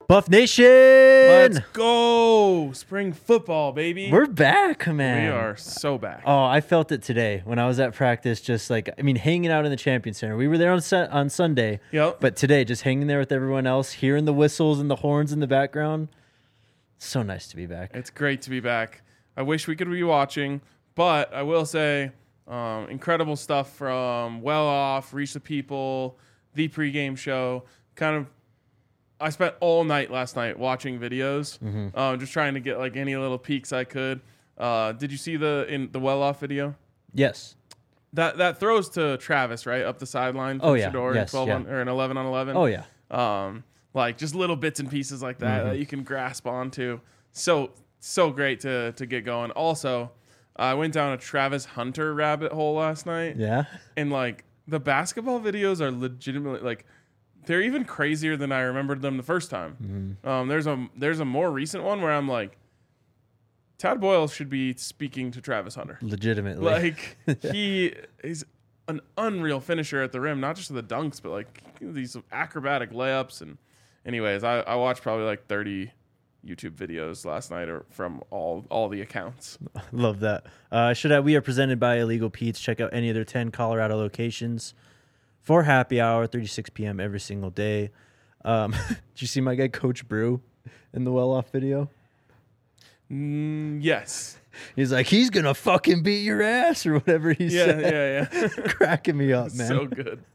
Buff Nation! Let's go! Spring football, baby. We're back, man. We are so back. Oh, I felt it today when I was at practice, just hanging out in the Champion Center. We were there on Sunday, Yep. but today, just hanging there with everyone else, hearing the whistles and the horns in the background. So nice to be back. It's great to be back. I wish we could be watching, but I will say incredible stuff from Well Off, Reach the People, the pregame show. I spent all night last night watching videos, just trying to get like any little peeks I could. Did you see the Well Off video? Yes. That throws to Travis, right? Up the sideline. Oh, yeah. Shador, Yes, 12 yeah. or an 11 on 11. Oh, yeah. Like just little bits and pieces like that you can grasp onto. So great to get going. Also, I went down a Travis Hunter rabbit hole last night. Yeah. And like the basketball videos are legitimately like they're even crazier than I remembered them the first time. There's a more recent one where I'm like, Tad Boyle should be speaking to Travis Hunter. Legitimately. Like he's an unreal finisher at the rim, not just the dunks, but like these acrobatic layups. And anyways, I watched probably like 30 YouTube videos last night or from all the accounts. Love that. We are presented by Illegal Pete's. Check out any of their 10 Colorado locations for happy hour, 36 p.m. every single day. Did you see my guy Coach Brew in the Well Off video? Yes. He's like, he's going to fucking beat your ass or whatever he said. Yeah. Cracking me up, man. So good.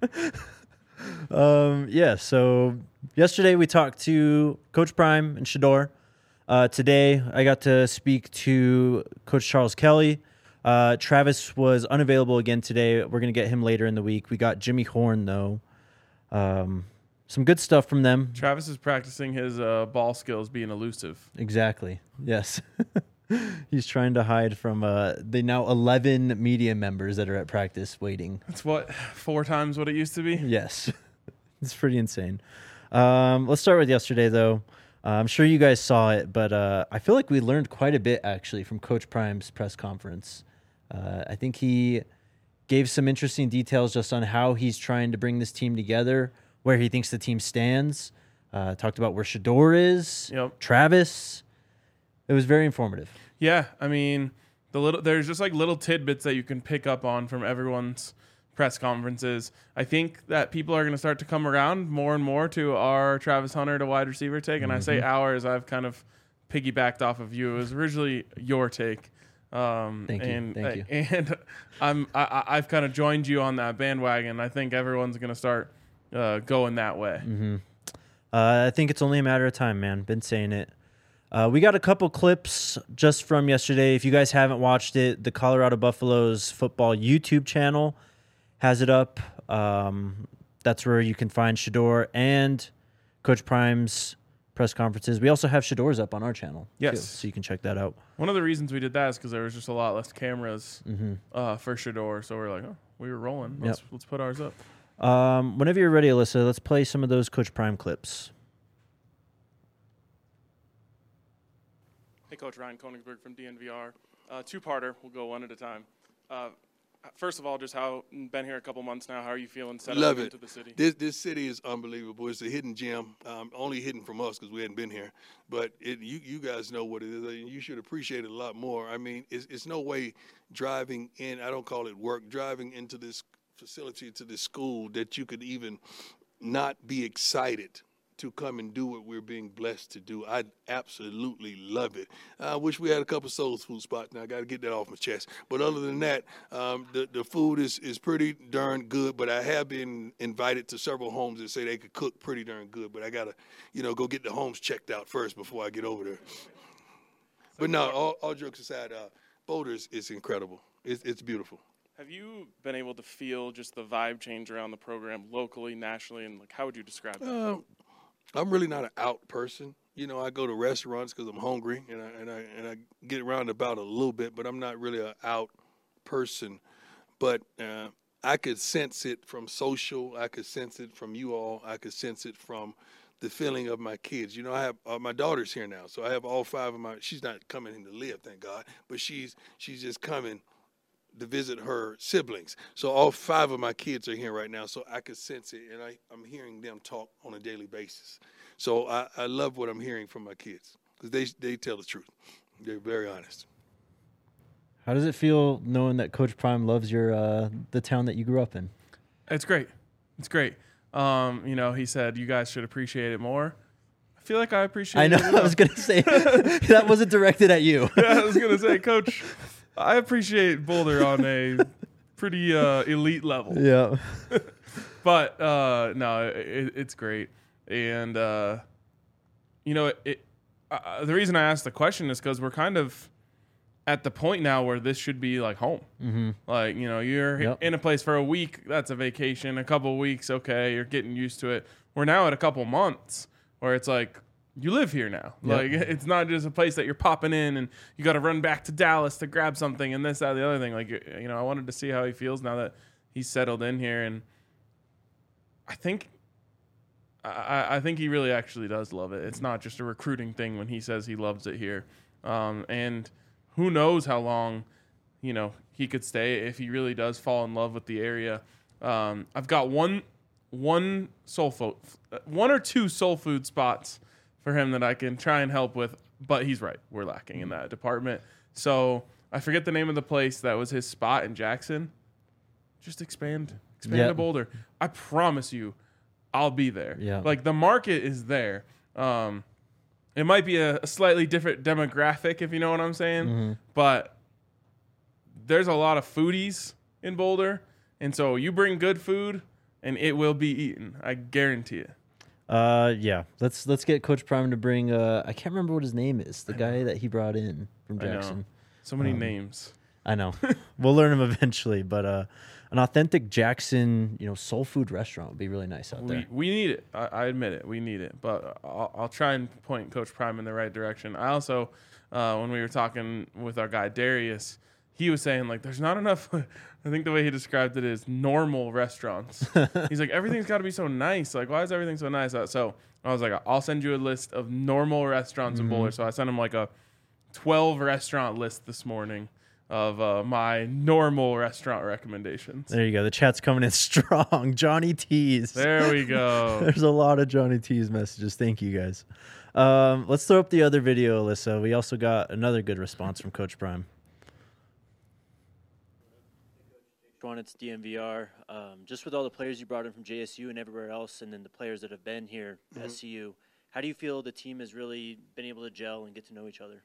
So yesterday we talked to Coach Prime and Shador. Today I got to speak to Coach Charles Kelly. Travis was unavailable again today. We're going to get him later in the week. We got Jimmy Horn, though. Some good stuff from them. Travis is practicing his ball skills being elusive. Exactly. Yes. He's trying to hide from the now 11 media members that are at practice waiting. That's 4 times what it used to be? Yes. It's pretty insane. Let's start with yesterday, though. I'm sure you guys saw it, but I feel like we learned quite a bit, actually, from Coach Prime's press conference. I think he gave some interesting details just on how he's trying to bring this team together, where he thinks the team stands. Talked about where Shador is, Travis. It was very informative. Yeah, I mean, there's just like little tidbits that you can pick up on from everyone's press conferences. I think that people are going to start to come around more and more to our Travis Hunter to wide receiver take. And I say ours, I've kind of piggybacked off of you. It was originally your take. Thank you. And I've kind of joined you on that bandwagon. I think everyone's going to start going that way. I think it's only a matter of time, man. Been saying it. We got a couple clips just from yesterday. If you guys haven't watched it, the Colorado Buffaloes football YouTube channel has it up. That's where you can find Shador and Coach Prime's press conferences. We also have Shador's up on our channel. Yes. Too, so you can check that out. One of the reasons we did that is because there was just a lot less cameras for Shador. So we're like, we were rolling. Let's put ours up. Whenever you're ready, Alyssa, let's play some of those Coach Prime clips. Hey, Coach Ryan Koenigsberg from DNVR. Two-parter. We'll go one at a time. First of all, just been here a couple months now. How are you feeling settling into the city? This city is unbelievable. It's a hidden gem, only hidden from us because we hadn't been here. But you guys know what it is. You should appreciate it a lot more. I mean, it's no way driving in, I don't call it work, driving into this facility, to this school, that you could even not be excited to come and do what we're being blessed to do. I absolutely love it. I wish we had a couple soul food spots. Now I got to get that off my chest. But other than that, the food is pretty darn good. But I have been invited to several homes that say they could cook pretty darn good. But I got to, go get the homes checked out first before I get over there. But no, all jokes aside, Boulder is incredible. It's beautiful. Have you been able to feel just the vibe change around the program locally, nationally, and how would you describe that? I'm really not an out person. I go to restaurants because I'm hungry, and I get around about a little bit, but I'm not really an out person. But I could sense it from social. I could sense it from you all. I could sense it from the feeling of my kids. I have my daughter's here now, so I have all 5 of my. She's not coming in to live, thank God, but she's just coming to visit her siblings. So all 5 of my kids are here right now, so I could sense it, and I'm hearing them talk on a daily basis. So I love what I'm hearing from my kids because they tell the truth. They're very honest. How does it feel knowing that Coach Prime loves your the town that you grew up in? It's great. It's great. He said you guys should appreciate it more. I feel like I appreciate it. I know. I was going to say that wasn't directed at you. Yeah, I was going to say, Coach, I appreciate Boulder on a pretty elite level. Yeah. But no, it's great. And, the reason I asked the question is because we're kind of at the point now where this should be like home. Mm-hmm. Like, you're in a place for a week. That's a vacation. A couple of weeks. Okay. You're getting used to it. We're now at a couple months where it's like, you live here now. Yep. Like, it's not just a place that you're popping in and you got to run back to Dallas to grab something and this, that, the other thing. Like, I wanted to see how he feels now that he's settled in here. And I think he really actually does love it. It's not just a recruiting thing when he says he loves it here. And who knows how long, he could stay if he really does fall in love with the area. I've got one or two soul food spots for him that I can try and help with, but he's right. We're lacking in that department. So I forget the name of the place that was his spot in Jackson. Just expand to Boulder. I promise you, I'll be there. Yeah. Like, the market is there. It might be a slightly different demographic, if you know what I'm saying, Mm-hmm. but there's a lot of foodies in Boulder, and so you bring good food, and it will be eaten. I guarantee it. Yeah. Let's get Coach Prime to bring. I can't remember what his name is. The guy that he brought in from Jackson. So many names. I know. We'll learn him eventually, but an authentic Jackson, soul food restaurant would be really nice out there. We need it. I admit it. We need it. But I'll try and point Coach Prime in the right direction. I also, when we were talking with our guy Darius, he was saying, like, there's not enough. I think the way he described it is normal restaurants. He's like, everything's got to be so nice. Like, why is everything so nice? So I was like, I'll send you a list of normal restaurants in Boulder. So I sent him like a 12 restaurant list this morning of my normal restaurant recommendations. There you go. The chat's coming in strong. Johnny T's. There we go. There's a lot of Johnny T's messages. Thank you, guys. Let's throw up the other video, Alyssa. We also got another good response from Coach Prime. It's DMVR. Just with all the players you brought in from JSU and everywhere else, and then the players that have been here at SCU, how do you feel the team has really been able to gel and get to know each other?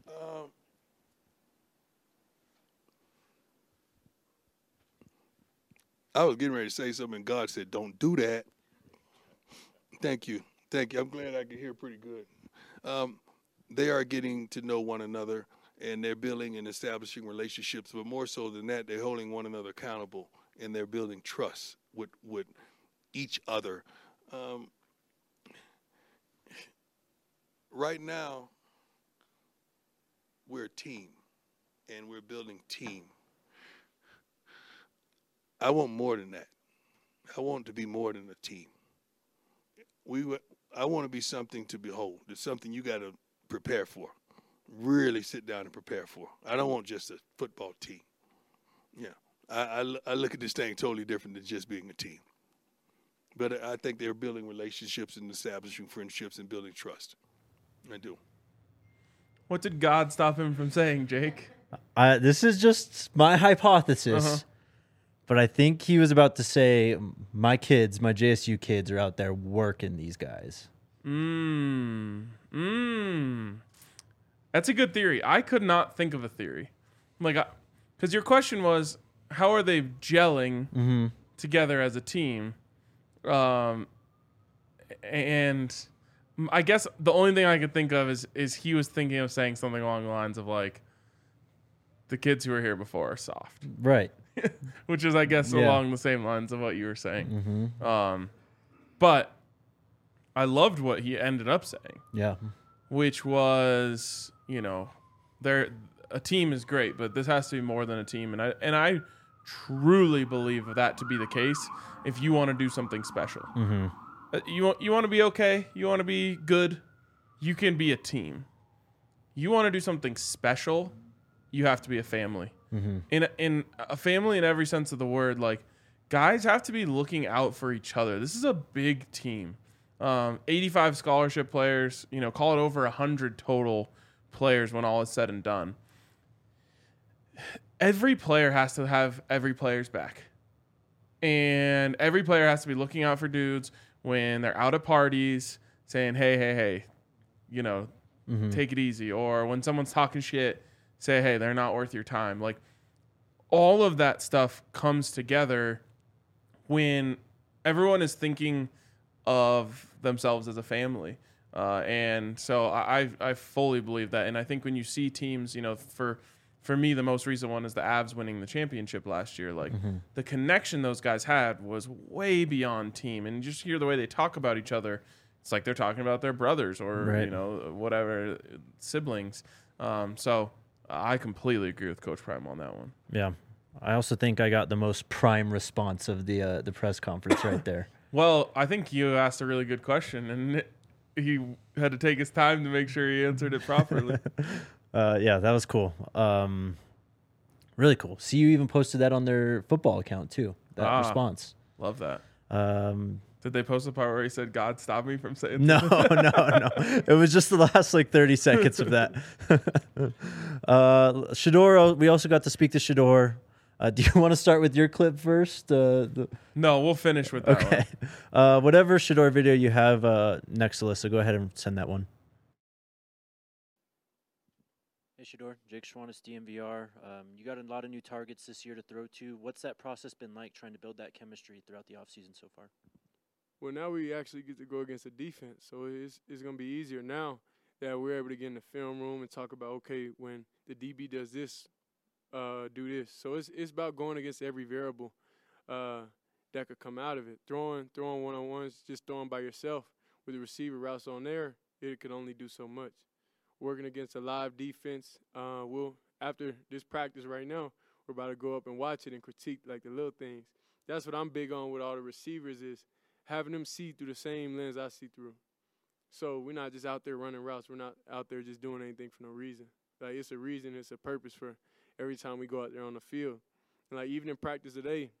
I was getting ready to say something, and God said, "Don't do that." Thank you. I'm glad I can hear pretty good. They are getting to know one another, and they're building and establishing relationships. But more so than that, they're holding one another accountable, and they're building trust with each other. Right now, we're a team, and we're building team. I want more than that. I want it to be more than a team. I want to be something to behold. It's something you got to prepare for. Really sit down and prepare for. I don't want just a football team. Yeah, I look at this thing totally different than just being a team. But I think they're building relationships and establishing friendships and building trust. I do. What did God stop him from saying, Jake? This is just my hypothesis. But I think he was about to say, my JSU kids are out there working these guys. That's a good theory. I could not think of a theory. Because your question was, how are they gelling together as a team? And I guess the only thing I could think of is he was thinking of saying something along the lines of, like, the kids who were here before are soft. Right. Which is, I guess, along the same lines of what you were saying. But I loved what he ended up saying. Yeah. Which was, a team is great, but this has to be more than a team. And I truly believe that to be the case if you want to do something special. You want to be okay? You want to be good? You can be a team. You want to do something special? You have to be a family. In a family in every sense of the word, like, guys have to be looking out for each other. This is a big team. 85 scholarship players, call it over 100 total players when all is said and done. Every player has to have every player's back. And every player has to be looking out for dudes when they're out at parties saying, hey, take it easy. Or when someone's talking shit, say, hey, they're not worth your time. Like, all of that stuff comes together when everyone is thinking of themselves as a family. And so I fully believe that. And I think when you see teams, for me, the most recent one is the Avs winning the championship last year. Like, the connection those guys had was way beyond team. And just hear the way they talk about each other. It's like they're talking about their brothers or, right. Whatever, siblings. So I completely agree with Coach Prime on that one. Yeah. I also think I got the most prime response of the press conference right there. Well, I think you asked a really good question, and he had to take his time to make sure he answered it properly. Yeah, that was cool. Really cool. See, you even posted that on their football account too, that response. Love that. Did they post the part where he said, God, stop me from saying No. It was just the last 30 seconds of that. Shedeur, we also got to speak to Shedeur. Do you want to start with your clip first? No, we'll finish with that one. Whatever Shedeur video you have next, Alyssa, go ahead and send that one. Hey, Shedeur, Jake Schwanitz, DMVR. You got a lot of new targets this year to throw to. What's that process been like trying to build that chemistry throughout the offseason so far? Well, now we actually get to go against a defense, so it's going to be easier now that we're able to get in the film room and talk about, okay, when the DB does this, do this. So it's about going against every variable that could come out of it. Throwing one-on-ones, just throwing by yourself with the receiver routes on there, it could only do so much. Working against a live defense, after this practice right now, we're about to go up and watch it and critique like the little things. That's what I'm big on with all the receivers is having them see through the same lens I see through. So we're not just out there running routes. We're not out there just doing anything for no reason. Like, it's a reason, it's a purpose for every time we go out there on the field. And, like, even in practice today,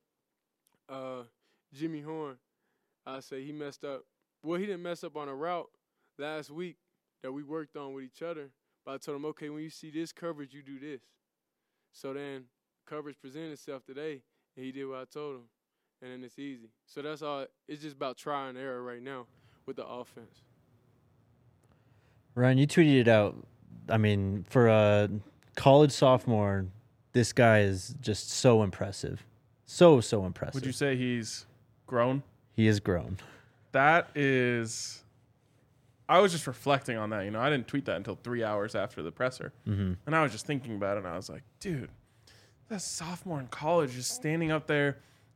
Jimmy Horn, I say he messed up. Well, he didn't mess up on a route last week that we worked on with each other. But I told him, okay, when you see this coverage, you do this. So then coverage presented itself today, and he did what I told him. And then it's easy. So that's all. It's just about try and error right now with the offense. Ryan, you tweeted it out. I mean, for a college sophomore, this guy is just so impressive. So impressive. Would you say he's grown? He is grown. That is... I was just reflecting on that. I didn't tweet that until 3 hours after the presser. Mm-hmm. And I was just thinking about it, and I was like, dude, that sophomore in college just standing up there.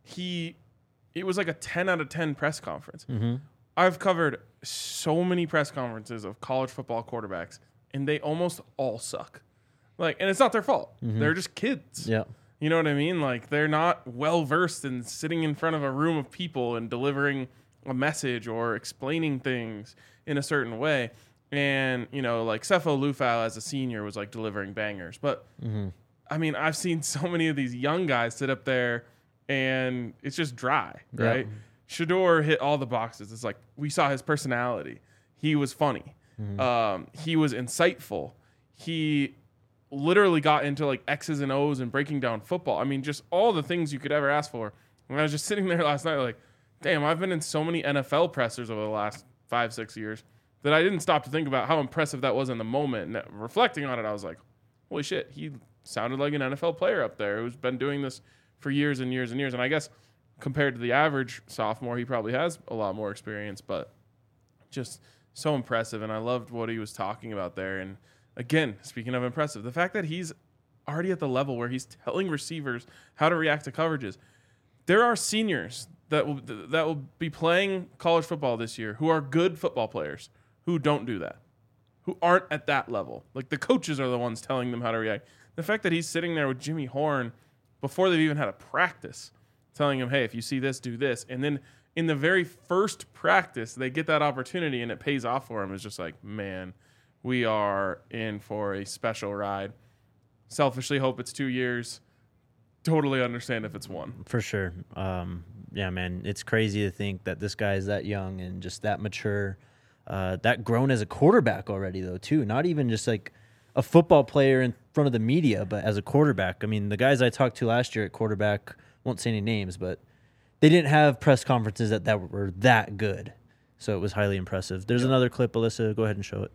It was like a 10 out of 10 press conference. Mm-hmm. I've covered so many press conferences of college football quarterbacks, and they almost all suck. Like, and it's not their fault. Mm-hmm. They're just kids. Yeah. You know what I mean? Like, they're not well-versed in sitting in front of a room of people and delivering a message or explaining things in a certain way. And, like Sefo Lufau as a senior was like delivering bangers. But, I mean, I've seen so many of these young guys sit up there and it's just dry, right? Yep. Shedeur hit all the boxes. It's like we saw his personality. He was funny. He was insightful. He literally got into like X's and O's and breaking down football. I mean, just all the things you could ever ask for. And I was just sitting there last night like, damn, I've been in so many NFL pressers over the last 5-6 years that I didn't stop to think about how impressive that was in the moment. And reflecting on it, I was like, holy shit, he sounded like an NFL player up there who's been doing this for years and years and years. And I guess compared to the average sophomore, he probably has a lot more experience, but just so impressive. And I loved what he was talking about there. And again, speaking of impressive, the fact that he's already at the level where he's telling receivers how to react to coverages. There are seniors that will be playing college football this year who are good football players who don't do that, who aren't at that level. Like, the coaches are the ones telling them how to react. The fact that he's sitting there with Jimmy Horn before they've even had a practice, telling him, hey, if you see this, do this. And then in the very first practice, they get that opportunity and it pays off for him. It's just like, man, we are in for a special ride. Selfishly hope it's 2 years. totally understand if it's one. For sure. Yeah, man, it's crazy to think that this guy is that young and just that mature, that grown as a quarterback already, though, too. Not even just like a football player in front of the media, but as a quarterback. I mean, the guys I talked to last year at quarterback, won't say any names, but they didn't have press conferences that were that good. So it was highly impressive. There's another clip, Alyssa. Go ahead and show it.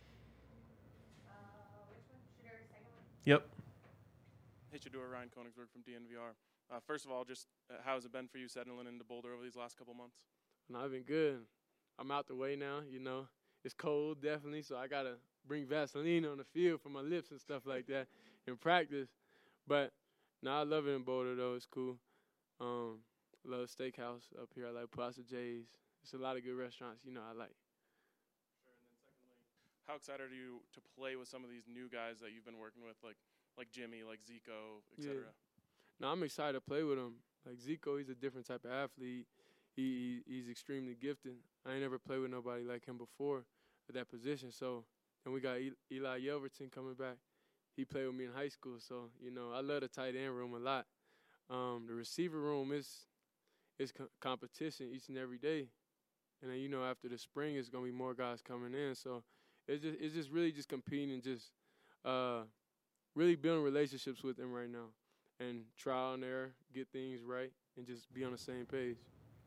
Yep. Hey, Shedeur, Ryan Koenigsberg from DNVR. First of all, just how has it been for you settling into Boulder over these last couple months? No, I've been good. I'm out the way now, you know. It's cold, definitely, so I got to bring Vaseline on the field for my lips and stuff like that in practice. But, no, I love it in Boulder, though. It's cool. I love Steakhouse up here. I like Plaza J's. There's a lot of good restaurants, you know, I like. Sure, and then secondly, how excited are you to play with some of these new guys that you've been working with, like Jimmy, like Zico, et cetera? Yeah. No, I'm excited to play with him. Like Zico, he's a different type of athlete. He's extremely gifted. I ain't never played with nobody like him before at that position. So, and we got Eli Yelverton coming back. He played with me in high school. So, you know, I love the tight end room a lot. The receiver room is competition each and every day. And then, you know, after the spring, it's going to be more guys coming in. So it's just really just competing and just really building relationships with them right now. And trial and error, get things right, and just be on the same page.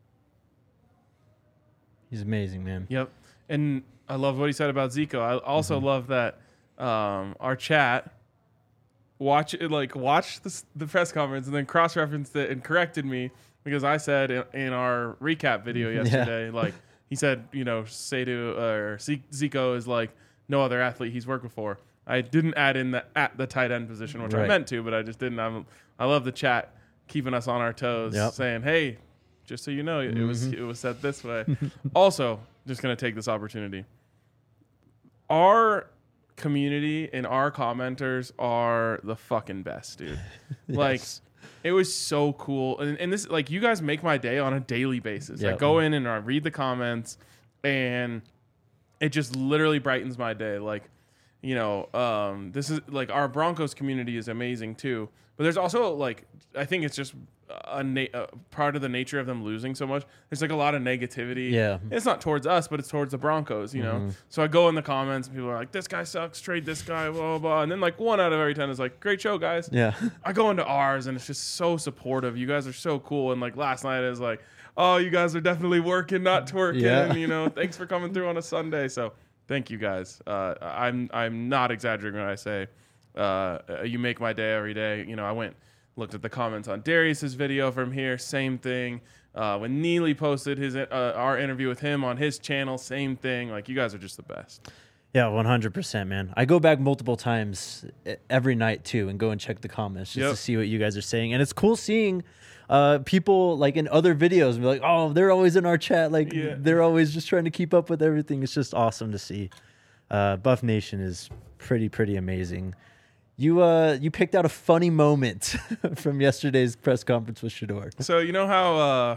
He's amazing, man. Yep. And I love what he said about Zico. I also love that our chat watched the press conference and then cross-referenced it and corrected me because I said in our recap video yesterday, like he said, you know, Zico is like no other athlete he's worked before. I didn't add in the tight end position, which I meant to, but I just didn't. I love the chat keeping us on our toes, saying, "Hey, just so you know, it was said this way." Also, just gonna take this opportunity. Our community and our commenters are the fucking best, dude. Like, it was so cool, and this, like, you guys make my day on a daily basis. I go in and I read the comments, and it just literally brightens my day. Like, you know, this is like our Broncos community is amazing too, but there's also like, I think it's just a part of the nature of them losing so much. There's like a lot of negativity. Yeah. It's not towards us, but it's towards the Broncos, you know? So I go in the comments and people are like, this guy sucks, trade this guy, blah, blah, blah. And then like 1 out of every 10 is like, great show, guys. Yeah. I go into ours and it's just so supportive. You guys are so cool. And like last night is like, oh, you guys are definitely working, not twerking. You know, thanks for coming through on a Sunday. So thank you guys. I'm not exaggerating when I say you make my day every day. You know, I looked at the comments on Darius's video from here, same thing. When Neely posted his our interview with him on his channel, same thing. Like, you guys are just the best. Yeah, 100%, man. I go back multiple times every night too and go and check the comments just to see what you guys are saying. And it's cool seeing people like in other videos and be like, oh, they're always in our chat. Like they're always just trying to keep up with everything. It's just awesome to see. Buff Nation is pretty amazing. You picked out a funny moment from yesterday's press conference with Shedeur. So you know how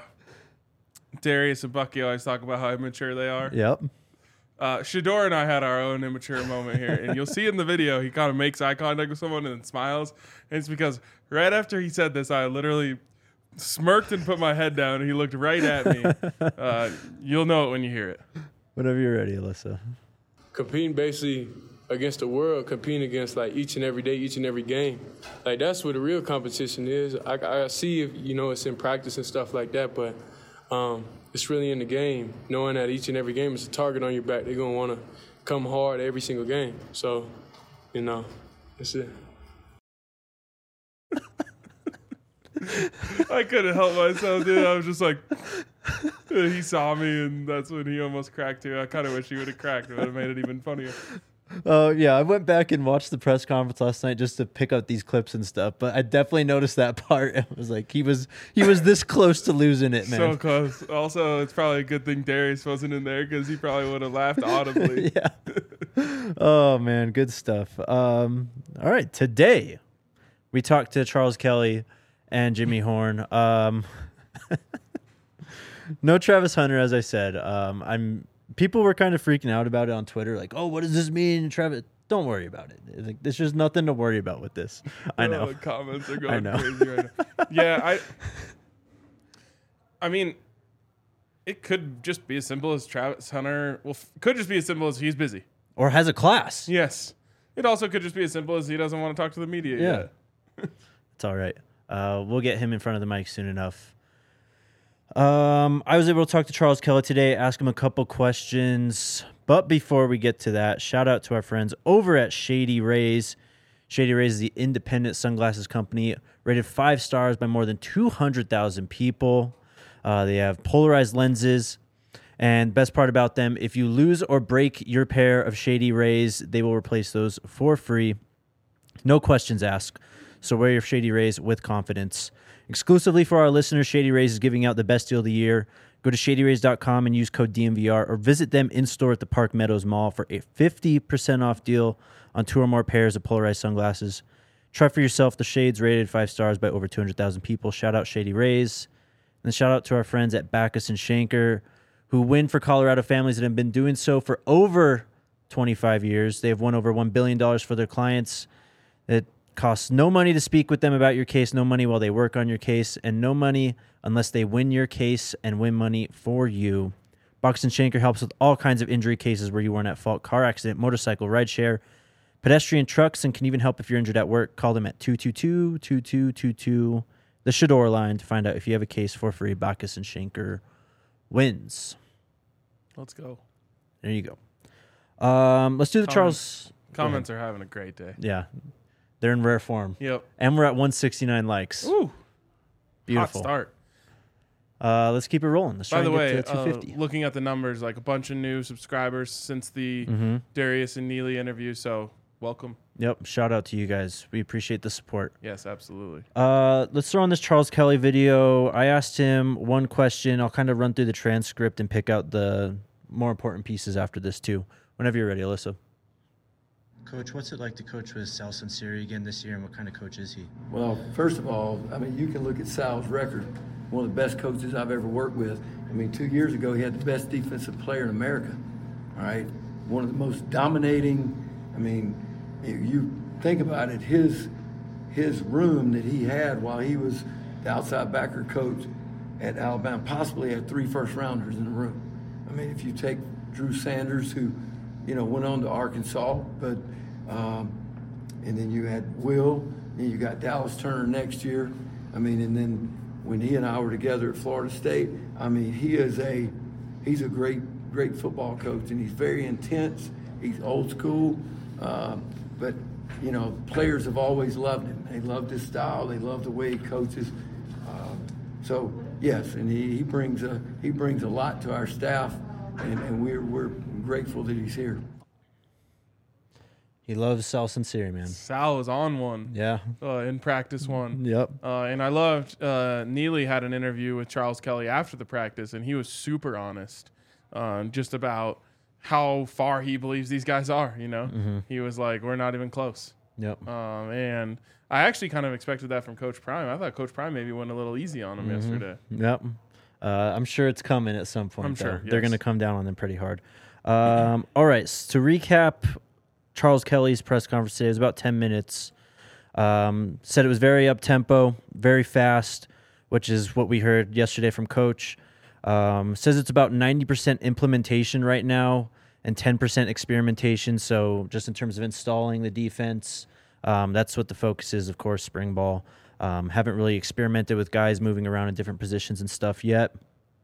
Darius and Bucky always talk about how immature they are? Yep. Shedeur and I had our own immature moment here, and you'll see in the video he kind of makes eye contact with someone and then smiles. And it's because right after he said this, I literally smirked and put my head down, and he looked right at me. You'll know it when you hear it. Whenever you're ready, Alyssa. Competing basically against the world, competing against like each and every day, each and every game. Like, that's where the real competition is. I see if, you know, it's in practice and stuff like that, but it's really in the game, knowing that each and every game is a target on your back. They're going to want to come hard every single game. So, you know, that's it. I couldn't help myself, dude. I was just like, he saw me, and that's when he almost cracked too. I kind of wish he would have cracked. It would have made it even funnier. Yeah, I went back and watched the press conference last night just to pick out these clips and stuff, but I definitely noticed that part. It was like he was this close to losing it, man. So close. Also, it's probably a good thing Darius wasn't in there because he probably would have laughed audibly. Yeah. Oh, man, good stuff. All right, today we talked to Charles Kelly and Jimmy Horn. No Travis Hunter, as I said. People were kind of freaking out about it on Twitter, like, oh, what does this mean? Travis don't worry about it. Like, there's just nothing to worry about with this. I know. The comments are I going know. crazy right now. Yeah, I mean, it could just be as simple as Travis Hunter. Well, could just be as simple as he's busy. Or has a class. Yes. It also could just be as simple as he doesn't want to talk to the media yet. It's all right. We'll get him in front of the mic soon enough. I was able to talk to Charles Kelly today, ask him a couple questions. But before we get to that, shout out to our friends over at Shady Rays. Shady Rays is the independent sunglasses company, rated 5 stars by more than 200,000 people. They have polarized lenses. And best part about them, if you lose or break your pair of Shady Rays, they will replace those for free. No questions asked. So wear your Shady Rays with confidence. Exclusively for our listeners, Shady Rays is giving out the best deal of the year. Go to shadyrays.com and use code DMVR or visit them in-store at the Park Meadows Mall for a 50% off deal on 2 or more pairs of polarized sunglasses. Try for yourself the shades rated 5 stars by over 200,000 people. Shout out Shady Rays. And shout out to our friends at Backus and Schenker, who win for Colorado families and have been doing so for over 25 years. They have won over $1 billion for their clients. It costs no money to speak with them about your case, no money while they work on your case, and no money unless they win your case and win money for you. Backus and Schenker helps with all kinds of injury cases where you weren't at fault: car accident, motorcycle, rideshare, pedestrian, trucks, and can even help if you're injured at work. Call them at 222-2222, the Shador line, to find out if you have a case for free. Backus and Schenker wins. Let's go. There you go. Let's do the Charles. Comments are having a great day. Yeah. They're in rare form. Yep. And we're at 169 likes. Ooh. Beautiful. Hot start. Let's keep it rolling. Let's try By the and way, get to 250. looking at the numbers, like a bunch of new subscribers since the Darius and Neely interview. So welcome. Yep. Shout out to you guys. We appreciate the support. Yes, absolutely. Let's throw on this Charles Kelly video. I asked him one question. I'll kind of run through the transcript and pick out the more important pieces after this too. Whenever you're ready, Alyssa. Coach, what's it like to coach with Sal Sunseri again this year, and what kind of coach is he? Well, first of all, I mean, you can look at Sal's record. One of the best coaches I've ever worked with. I mean, 2 years ago, he had the best defensive player in America, all right? One of the most dominating, I mean, you think about it, his room that he had while he was the outside backer coach at Alabama, possibly had 3 first-rounders in the room. I mean, if you take Drew Sanders, who, you know, went on to Arkansas, but and then you had Will, and you got Dallas Turner next year. I mean, and then when he and I were together at Florida State, I mean, he's a great football coach, and he's very intense. He's old school, but you know, players have always loved him. They loved his style. They love the way he coaches. So yes, and he brings a lot to our staff, and we're grateful that he's here. He loves Sal Sunseri, man. Sal was on one. Yeah. In practice one. Yep. And I loved Neely had an interview with Charles Kelly after the practice, and he was super honest just about how far he believes these guys are, you know. He was like, we're not even close. Yep. And I actually kind of expected that from Coach Prime. I thought Coach Prime maybe went a little easy on him yesterday. Yep. I'm sure it's coming at some point. I'm sure, They're yes. going to come down on them pretty hard. All right. So to recap Charles Kelly's press conference today, it was about 10 minutes. Said it was very up-tempo, very fast, which is what we heard yesterday from Coach. Says it's about 90% implementation right now and 10% experimentation. So just in terms of installing the defense, that's what the focus is, of course, spring ball. Haven't really experimented with guys moving around in different positions and stuff yet.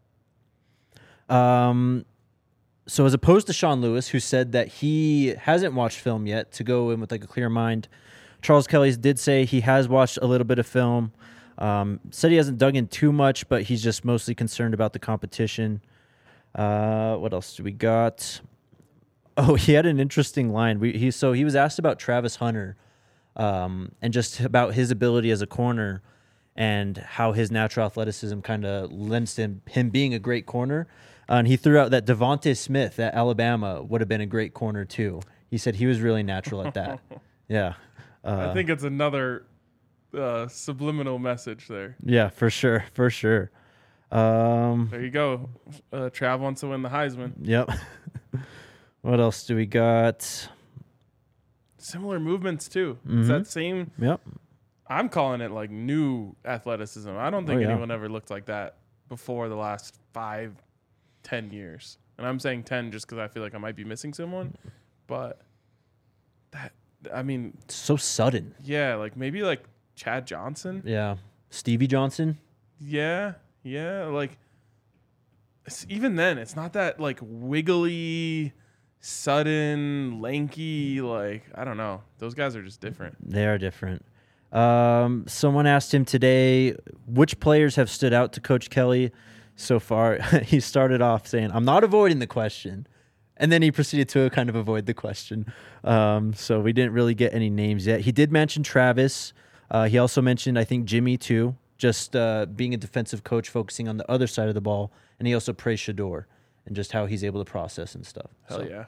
So as opposed to Sean Lewis, who said that he hasn't watched film yet to go in with like a clear mind, Charles Kelly did say he has watched a little bit of film. Said he hasn't dug in too much, but he's just mostly concerned about the competition. What else do we got? Oh, he had an interesting line. He was asked about Travis Hunter and just about his ability as a corner and how his natural athleticism kind of lends to him being a great corner. And he threw out that Devontae Smith at Alabama would have been a great corner too. He said he was really natural at that. Yeah. I think it's another subliminal message there. Yeah, for sure. For sure. There you go. Trav wants to win the Heisman. Yep. What else do we got? similar movements too. It's that same. Yep. I'm calling it like new athleticism. I don't think Oh, yeah. anyone ever looked like that before the last 5-10 years. And I'm saying 10 just because I feel like I might be missing someone. But that, I mean, So sudden. yeah, like maybe like Chad Johnson. Yeah. Stevie Johnson. Yeah, like even then, it's not that like wiggly, sudden, lanky. Like I don't know, those guys are just different. They are different. Someone asked him today, which players have stood out to Coach Kelly so far? He started off saying, I'm not avoiding the question. And then he proceeded to kind of avoid the question. So we didn't really get any names yet. He did mention Travis. He also mentioned, I think, Jimmy too, just being a defensive coach, focusing on the other side of the ball. And he also praised Shador and just how he's able to process and stuff. Hell So, yeah.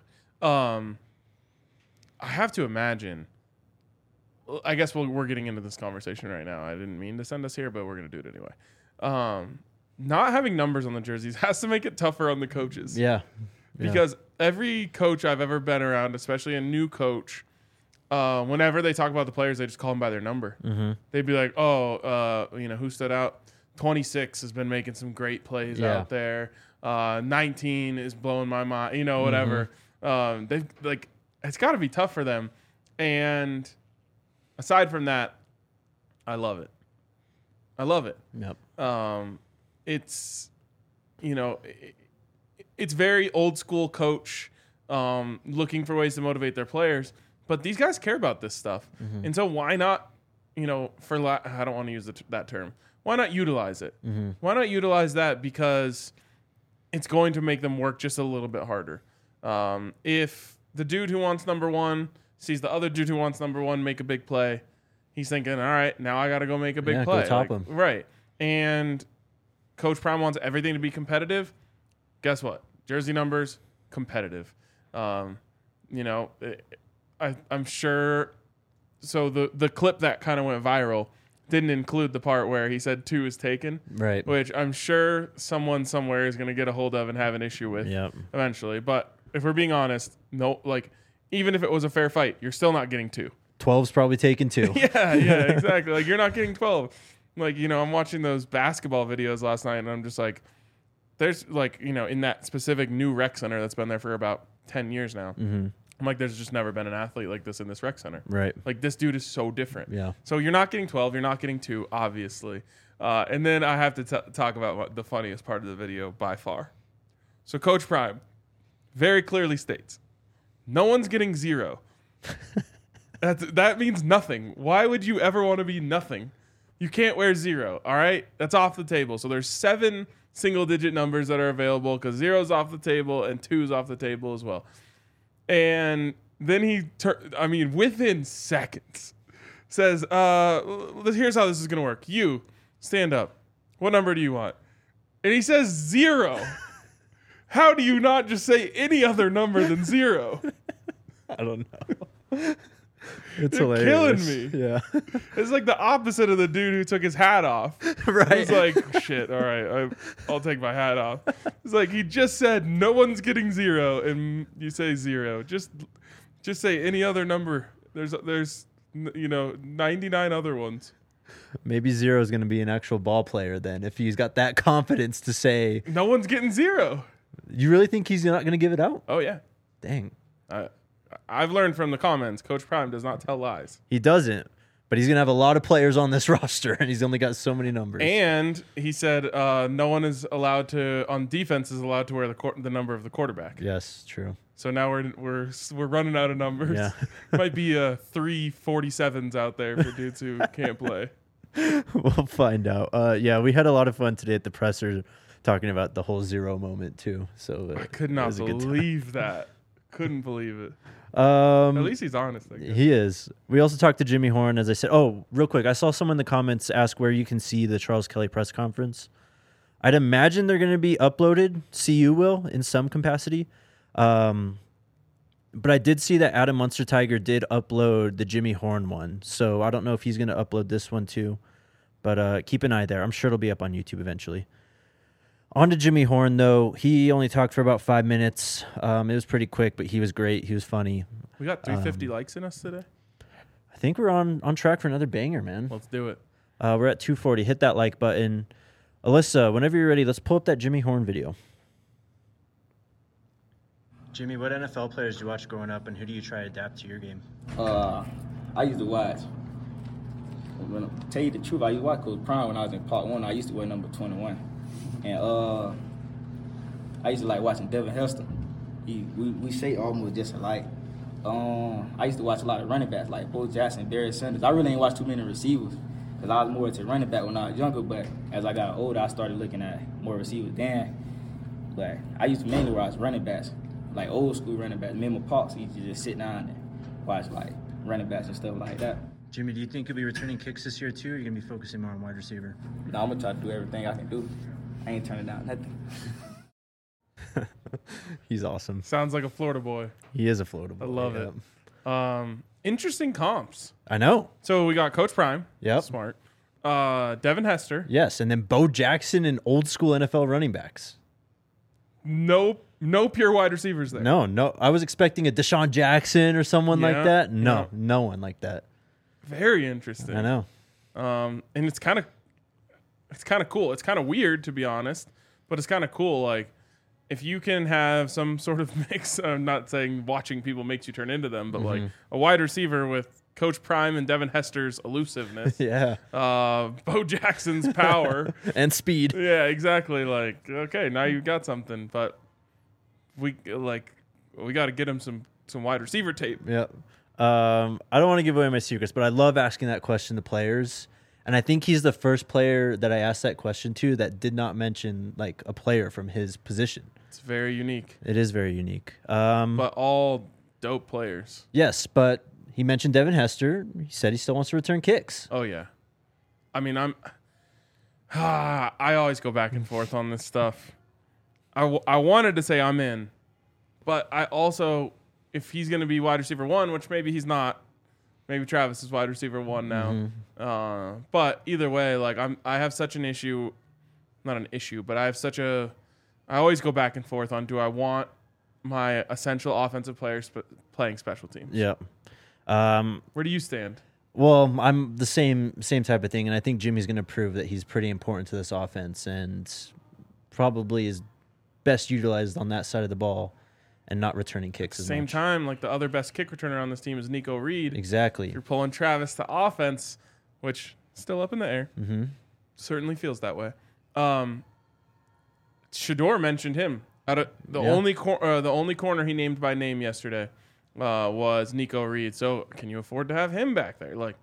I have to imagine. I guess we're getting into this conversation right now. I didn't mean to send us here, but we're going to do it anyway. Not having numbers on the jerseys has to make it tougher on the coaches. Yeah. Because every coach I've ever been around, especially a new coach, whenever they talk about the players, they just call them by their number. Mm-hmm. They'd be like, who stood out? 26 has been making some great plays out there. 19 is blowing my mind, whatever. They've like, it's got to be tough for them. And aside from that, I love it. Yep. It's, it's very old school coach, looking for ways to motivate their players. But these guys care about this stuff. Mm-hmm. And so why not, I don't want to use that term. Why not utilize it? Mm-hmm. Why not utilize that? Because it's going to make them work just a little bit harder. If the dude who wants number one sees the other dude who wants number one make a big play, he's thinking, all right, now I got to go make a big play. Go top him. Right. And Coach Prime wants everything to be competitive. Guess what? Jersey numbers, competitive. I'm sure. So the clip that kind of went viral didn't include the part where he said 2 is taken. Right. Which I'm sure someone somewhere is going to get a hold of and have an issue with eventually. But if we're being honest, no, like even if it was a fair fight, you're still not getting 2. 12's probably taken too. Yeah, exactly. Like you're not getting 12. Like, I'm watching those basketball videos last night and I'm just like, there's like, in that specific new rec center that's been there for about 10 years now. Mm-hmm. I'm like, there's just never been an athlete like this in this rec center. Right. Like this dude is so different. Yeah. So you're not getting 12. You're not getting 2, obviously. And then I have to talk about the funniest part of the video by far. So Coach Prime very clearly states, no one's getting 0. That means nothing. Why would you ever want to be nothing? You can't wear 0. All right. That's off the table. So there's 7 single digit numbers that are available because 0's off the table and 2's off the table as well. And then he, within seconds, says, here's how this is going to work. You, stand up. What number do you want? And he says 0. How do you not just say any other number than 0? I don't know. It's You're hilarious. killing me. Yeah. It's like the opposite of the dude who took his hat off. Right. It's like, shit, all right, I'll take my hat off. It's like he just said no one's getting 0, and you say 0. Just say any other number. There's 99 other ones. Maybe 0 is going to be an actual ball player then if he's got that confidence to say. No one's getting 0. You really think he's not going to give it out? Oh, yeah. Dang. I've learned from the comments, Coach Prime does not tell lies. He doesn't, but he's going to have a lot of players on this roster, and he's only got so many numbers. And he said no one is allowed to, on defense, is allowed to wear the number of the quarterback. Yes, true. So now we're running out of numbers. Yeah. Might be 3 47s out there for dudes who can't play. We'll find out. We had a lot of fun today at the presser talking about the whole 0 moment, too. So I could not believe that. Couldn't believe it. At least he's honest, I guess. He is. We also talked to Jimmy Horn, as I said. Oh, real quick. I saw someone in the comments ask where you can see the Charles Kelly press conference. I'd imagine they're going to be uploaded. CU will in some capacity. But I did see that Adam Munster Tiger did upload the Jimmy Horn one. So I don't know if he's going to upload this one too. But keep an eye there. I'm sure it'll be up on YouTube eventually. On to Jimmy Horn, though. He only talked for about 5 minutes. It was pretty quick, but he was great. He was funny. We got 350 likes in us today. I think we're on track for another banger, man. Let's do it. We're at 240. Hit that like button. Alyssa, whenever you're ready, let's pull up that Jimmy Horn video. Jimmy, what NFL players do you watch growing up, and who do you try to adapt to your game? I used to watch. When I tell you the truth, I used to watch Coach Prime when I was in Part 1. I used to wear number 21. And I used to like watching Devin Hester. We say almost just alike. I used to watch a lot of running backs like Bo Jackson, Barry Sanders. I really ain't watched too many receivers because I was more into running back when I was younger. But as I got older, I started looking at more receivers then. But I used to mainly watch running backs, like old school running backs. Me and my pops used to just sit down and watch like running backs and stuff like that. Jimmy, do you think you'll be returning kicks this year too, or are you going to be focusing more on wide receiver? No, I'm going to try to do everything I can do. I ain't turning down nothing. He's awesome. Sounds like a Florida boy. He is a floatable. I love it. Interesting comps. I know. So we got Coach Prime. Yep. Smart. Devin Hester. Yes, and then Bo Jackson and old school NFL running backs. No pure wide receivers there. No. I was expecting a Deshaun Jackson or someone like that. No, yeah. no one like that. Very interesting. I know. And it's kind of cool. It's kind of weird, to be honest, but it's kind of cool. Like, if you can have some sort of mix, I'm not saying watching people makes you turn into them, but like a wide receiver with Coach Prime and Devin Hester's elusiveness, Yeah. Bo Jackson's power And speed. Yeah, exactly. Like, okay, now you've got something, but we got to get him some wide receiver tape. Yep. I don't want to give away my secrets, but I love asking that question to players. And I think he's the first player that I asked that question to that did not mention like a player from his position. It's very unique, It is very unique. but all dope players. Yes, but he mentioned Devin Hester. He said he still wants to return kicks. Oh yeah, I mean I always go back and forth on this stuff. I wanted to say I'm in, but I also, if he's going to be wide receiver 1, which maybe he's not, maybe Travis is wide receiver 1 now. But either way, like I have such an issue, not an issue, but I always go back and forth on, do I want my essential offensive players playing special teams? Yep. Where do you stand? Well, I'm the same type of thing, and I think Jimmy's going to prove that he's pretty important to this offense and probably is best utilized on that side of the ball and not returning kicks as Same much. time, like the other best kick returner on this team is Nico Reed. Exactly. You're pulling Travis to offense, which still up in the air. Mm-hmm. Certainly feels that way. Shador mentioned him. The Yeah. only corner he named by name yesterday was Nico Reed. So can you afford to have him back there? Like,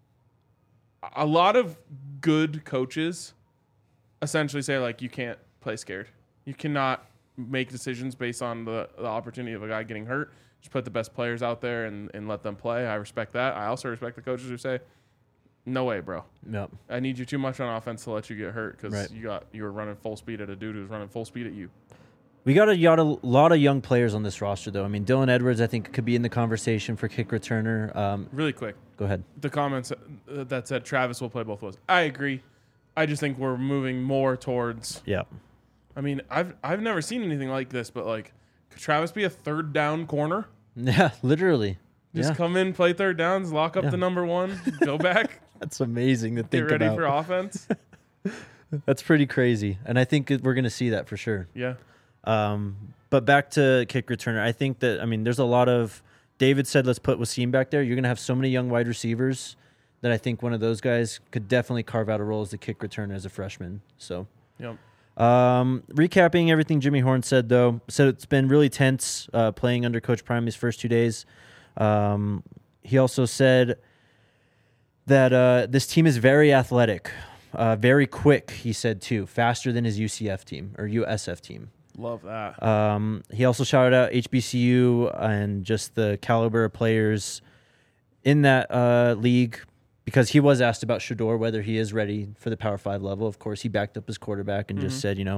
a lot of good coaches essentially say, like, you can't play scared. You cannot make decisions based on the opportunity of a guy getting hurt. Just put the best players out there and let them play. I respect that. I also respect the coaches who say, no way, bro. Yep. I need you too much on offense to let you get hurt because Right. you were running full speed at a dude who's running full speed at you. We got a lot of young players on this roster, though. I mean, Dylan Edwards, I think, could be in the conversation for kick returner. Really quick, Go ahead. the comments that said Travis will play both ways. I agree. I just think we're moving more towards. Yeah. I mean, I've never seen anything like this, but like, could Travis be a third down corner? Yeah, literally. Just Yeah. come in, play third downs, lock up Yeah. the number one, go back, That's amazing to get think ready about. for offense. That's pretty crazy, and I think we're going to see that for sure. Yeah. But back to kick returner, I think that, I mean, there's a lot of, David said, let's put Wasim back there. You're going to have so many young wide receivers that I think one of those guys could definitely carve out a role as the kick returner as a freshman. So, Yep. recapping everything Jimmy Horn said, though, said it's been really tense playing under Coach Prime his first 2 days. He also said that this team is very athletic, very quick, he said, too, faster than his UCF team or USF team. Love that. He also shouted out HBCU and just the caliber of players in that league because he was asked about Shador, whether he is ready for the Power 5 level. Of course, he backed up his quarterback and just said,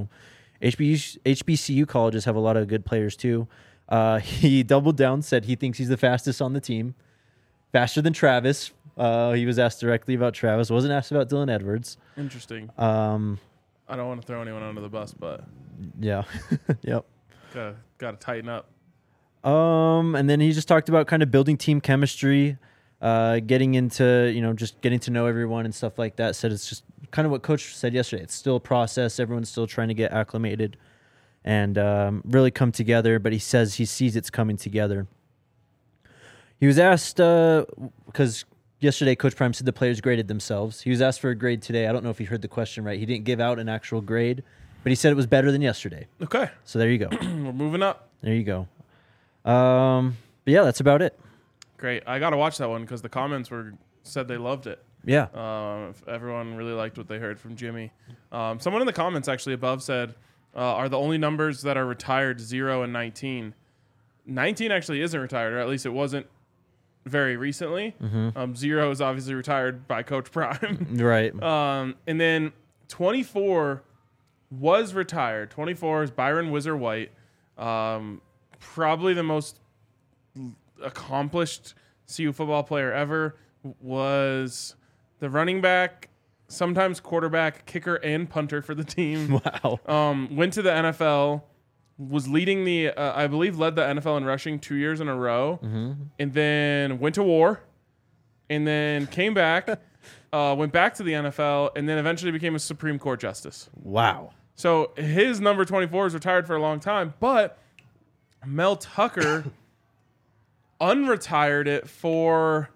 HBCU colleges have a lot of good players too. He doubled down, said he thinks he's the fastest on the team, faster than Travis. He was asked directly about Travis, wasn't asked about Dylan Edwards. Interesting. I don't want to throw anyone under the bus, but Yeah. Yep. gotta tighten up. And then he just talked about kind of building team chemistry, getting into, just getting to know everyone and stuff like that. Said it's just kind of what Coach said yesterday. It's still a process. Everyone's still trying to get acclimated and really come together. But he says he sees it's coming together. He was asked, because yesterday Coach Prime said the players graded themselves. He was asked for a grade today. I don't know if he heard the question right. He didn't give out an actual grade, but he said it was better than yesterday. Okay. So there you go. We're moving up. There you go. But yeah, that's about it. Great. I got to watch that one because the comments said they loved it. Yeah. Everyone really liked what they heard from Jimmy. Someone in the comments actually above said, are the only numbers that are retired 0 and 19. 19 actually isn't retired, or at least it wasn't very recently. 0 is obviously retired by Coach Prime. Right. And then 24 was retired. 24 is Byron Whizzer White. Probably the most accomplished CU football player ever. Was the running back, sometimes quarterback, kicker, and punter for the team. Wow. Went to the NFL, was leading I believe led the NFL in rushing 2 years in a row, and then went to war, and then came back, went back to the NFL, and then eventually became a Supreme Court justice. Wow. So his number 24 is retired for a long time, but Mel Tucker unretired it for,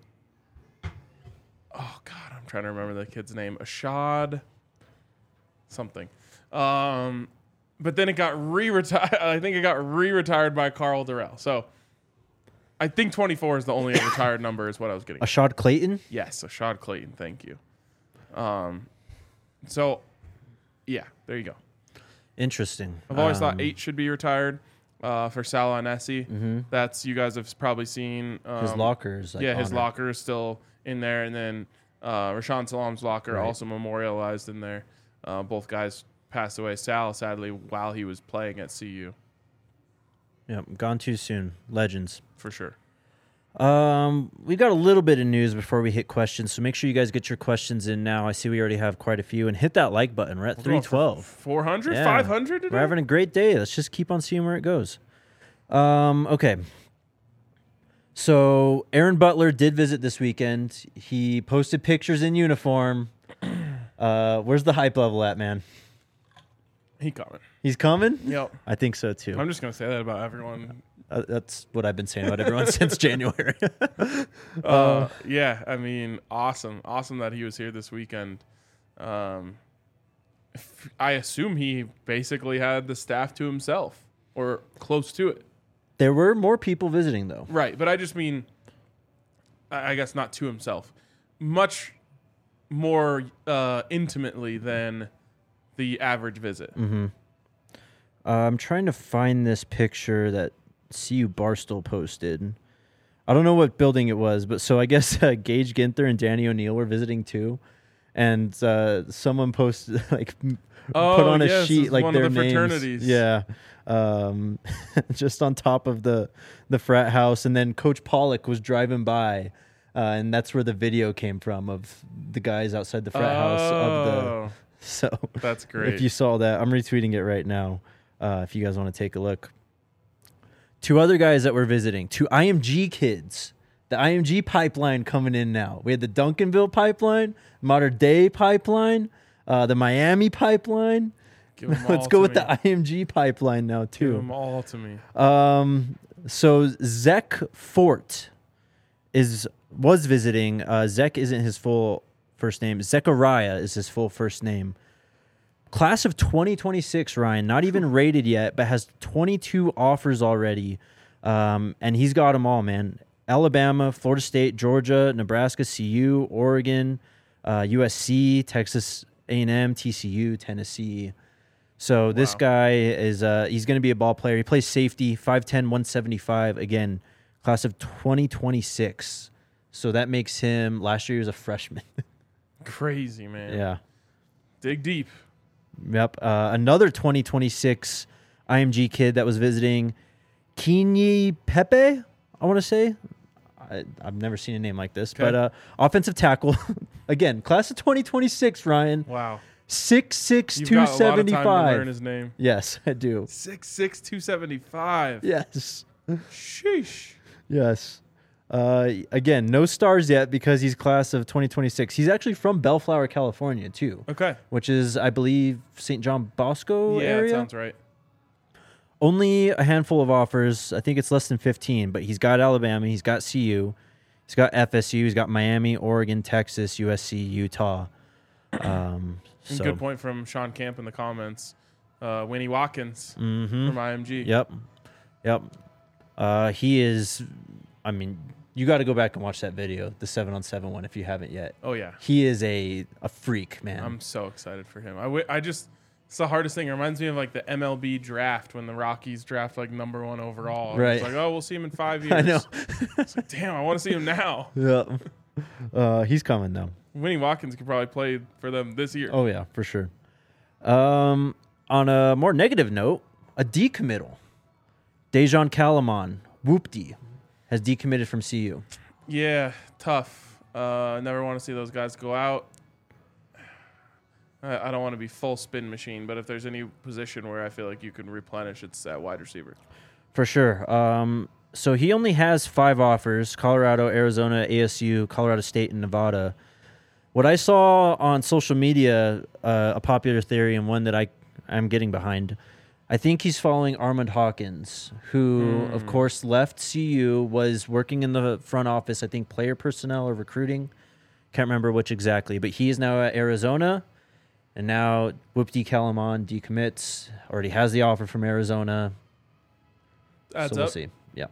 oh God, I'm trying to remember the kid's name. Ashad something. But then it got re-retired. I think it got re-retired by Carl Durrell. So I think 24 is the only retired number is what I was getting. Ashad Clayton? Yes, Ashad Clayton. Thank you. So, yeah, there you go. Interesting. I've always thought 8 should be retired for Salah and Essie. That's, you guys have probably seen. His lockers. His locker is still in there. And then Rashaan Salam's locker also memorialized in there. Both guys passed away. Sal, sadly, while he was playing at CU. Yep, gone too soon. Legends. For sure. We got a little bit of news before we hit questions, so make sure you guys get your questions in now. I see we already have quite a few, and hit that like button. We're at 312. 400? Yeah. 500 today? We're having a great day. Let's just keep on seeing where it goes. Okay. So Aaron Butler did visit this weekend. He posted pictures in uniform. Where's the hype level at, man? He coming. He's coming? Yep. I think so, too. I'm just going to say that about everyone. That's what I've been saying about everyone since January. Yeah, I mean, awesome. Awesome that he was here this weekend. I assume he basically had the staff to himself or close to it. There were more people visiting, though. Right, but I just mean, I guess not to himself. Much more intimately than the average visit. I'm trying to find this picture that CU Barstool posted. I don't know what building it was, but so I guess Gage Ginther and Danny O'Neill were visiting too, and someone posted put on a sheet like one their of the names. fraternities. Yeah, just on top of the frat house, and then Coach Pollock was driving by, and that's where the video came from of the guys outside the frat house of the. So that's great. If you saw that, I'm retweeting it right now. If you guys want to take a look. 2 other guys that were visiting, 2 IMG kids. The IMG pipeline coming in now. We had the Duncanville pipeline, Modern Day pipeline, the Miami pipeline. Let's go with the IMG pipeline now too. Give them all to me. So Zek Fort was visiting. Zek isn't his full first name. Zechariah is his full first name. Class of 2026, Ryan, not even rated yet, but has 22 offers already. And he's got them all, man. Alabama, Florida State, Georgia, Nebraska, CU, Oregon, USC, Texas A&M, TCU, Tennessee. So this guy is he's going to be a ball player. He plays safety, 5'10", 175. Again, class of 2026. So that makes him, last year he was a freshman. Crazy, man. Yeah. Dig deep. Yep. Another 2026 IMG kid that was visiting, Kenyi Pepe, I want to say. I've never seen a name like this, but offensive tackle. Again, class of 2026, Ryan. Wow. 6'6", You've got a lot of time to learn 275. his name. Yes, I do. 6'6", 275. Yes. Sheesh. Yes. Again, no stars yet because he's class of 2026. He's actually from Bellflower, California, too, Okay. which is, I believe, St. John Bosco Yeah, area. that sounds right. Only a handful of offers. I think it's less than 15, but he's got Alabama. He's got CU. He's got FSU. He's got Miami, Oregon, Texas, USC, Utah. And So, good point from Sean Camp in the comments. Winnie Watkins from IMG. Yep. He is, I mean, you got to go back and watch that video, the 7-on-7 one, if you haven't yet. Oh, yeah. He is a freak, man. I'm so excited for him. It's the hardest thing. It reminds me of like the MLB draft when the Rockies draft like number 1 overall. Right. It's like, oh, we'll see him in 5 years. I know. It's like, damn, I want to see him now. Yeah. He's coming, though. Winnie Watkins could probably play for them this year. Oh, yeah, for sure. On a more negative note, a decommittal. Dejan Kalaman, Whoopty, has decommitted from CU. Yeah, tough. Never want to see those guys go out. I don't want to be full spin machine, but if there's any position where I feel like you can replenish, it's at wide receiver. For sure. So he only has 5 offers: Colorado, Arizona, ASU, Colorado State, and Nevada. What I saw on social media, a popular theory and one that I'm getting behind, I think he's following Armand Hawkins, who, of course, left CU, was working in the front office, I think player personnel or recruiting. Can't remember which exactly, but he is now at Arizona. And now Whoopty Kalaman decommits, already has the offer from Arizona. Adds So we'll up. see. Yeah.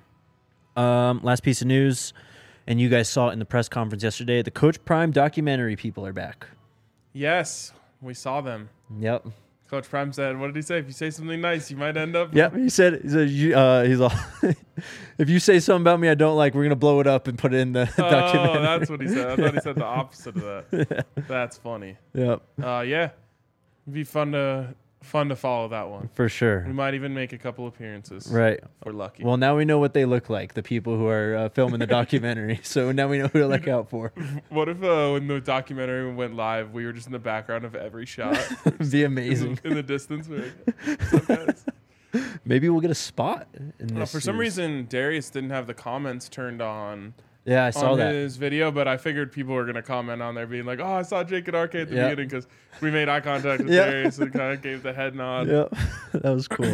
Last piece of news, and you guys saw it in the press conference yesterday. The Coach Prime documentary people are back. Yes, we saw them. Yep. Coach Prime said, what did he say? If you say something nice, you might end up. Yep. He said he's all, if you say something about me I don't like, we're gonna blow it up and put it in the documentary. Oh, that's what he said. I thought he said the opposite of that. That's funny. Yep. Yeah, it'd be fun to follow that one. For sure. We might even make a couple appearances. Right. If we're lucky. Well, now we know what they look like, the people who are filming the documentary. So now we know who to look out for. What if when the documentary went live, we were just in the background of every shot? It'd be amazing. In the distance. We're like, "What's up, guys?" Maybe we'll get a spot in this For some series. reason, Darius didn't have the comments turned on. Yeah, I saw on that. his video, but I figured people were going to comment on there being like, oh, I saw Jake and RK at the Yeah. beginning because we made eye contact with Yeah. Darius and kind of gave the head nod. Yep. That was cool.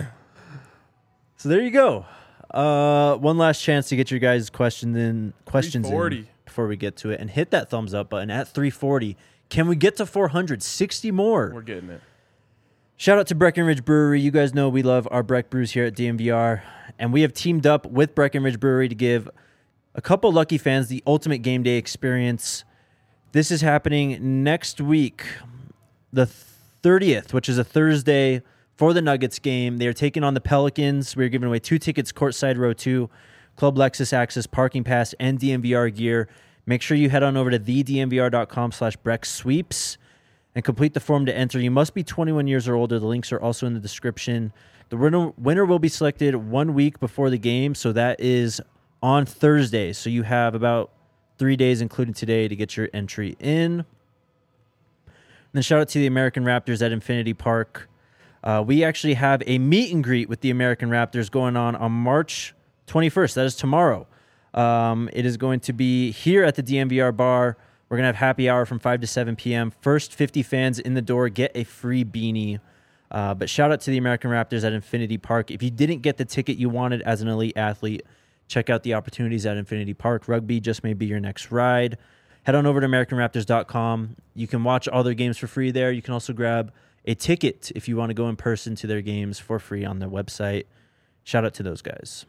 So there you go. One last chance to get your guys' questions in 340. before we get to it. And hit that thumbs up button at 340. Can we get to 400? 60 more. We're getting it. Shout out to Breckenridge Brewery. You guys know we love our Breck brews here at DMVR. And we have teamed up with Breckenridge Brewery to give a couple lucky fans the ultimate game day experience. This is happening next week, the 30th, which is a Thursday, for the Nuggets game. They are taking on the Pelicans. We're giving away 2 tickets, courtside row 2, Club Lexus access, parking pass, and DMVR gear. Make sure you head on over to thedmvr.com/BreckSweeps and complete the form to enter. You must be 21 years or older. The links are also in the description. The winner will be selected 1 week before the game, so that is on Thursday. So you have about 3 days, including today, to get your entry in. And then shout out to the American Raptors at Infinity Park. We actually have a meet and greet with the American Raptors going on March 21st. That is tomorrow. It is going to be here at the DMVR bar. We're going to have happy hour from 5 to 7 p.m. First 50 fans in the door get a free beanie. But shout out to the American Raptors at Infinity Park. If you didn't get the ticket you wanted as an elite athlete, check out the opportunities at Infinity Park. Rugby just may be your next ride. Head on over to AmericanRaptors.com. You can watch all their games for free there. You can also grab a ticket if you want to go in person to their games for free on their website. Shout out to those guys.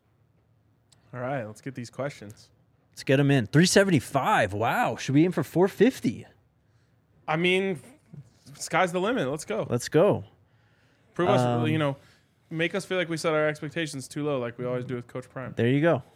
All right, let's get these questions. Let's get them in. 375. Wow. Should we aim for 450? I mean, sky's the limit. Let's go. Let's go. Prove us, make us feel like we set our expectations too low, like we always do with Coach Prime. There you go.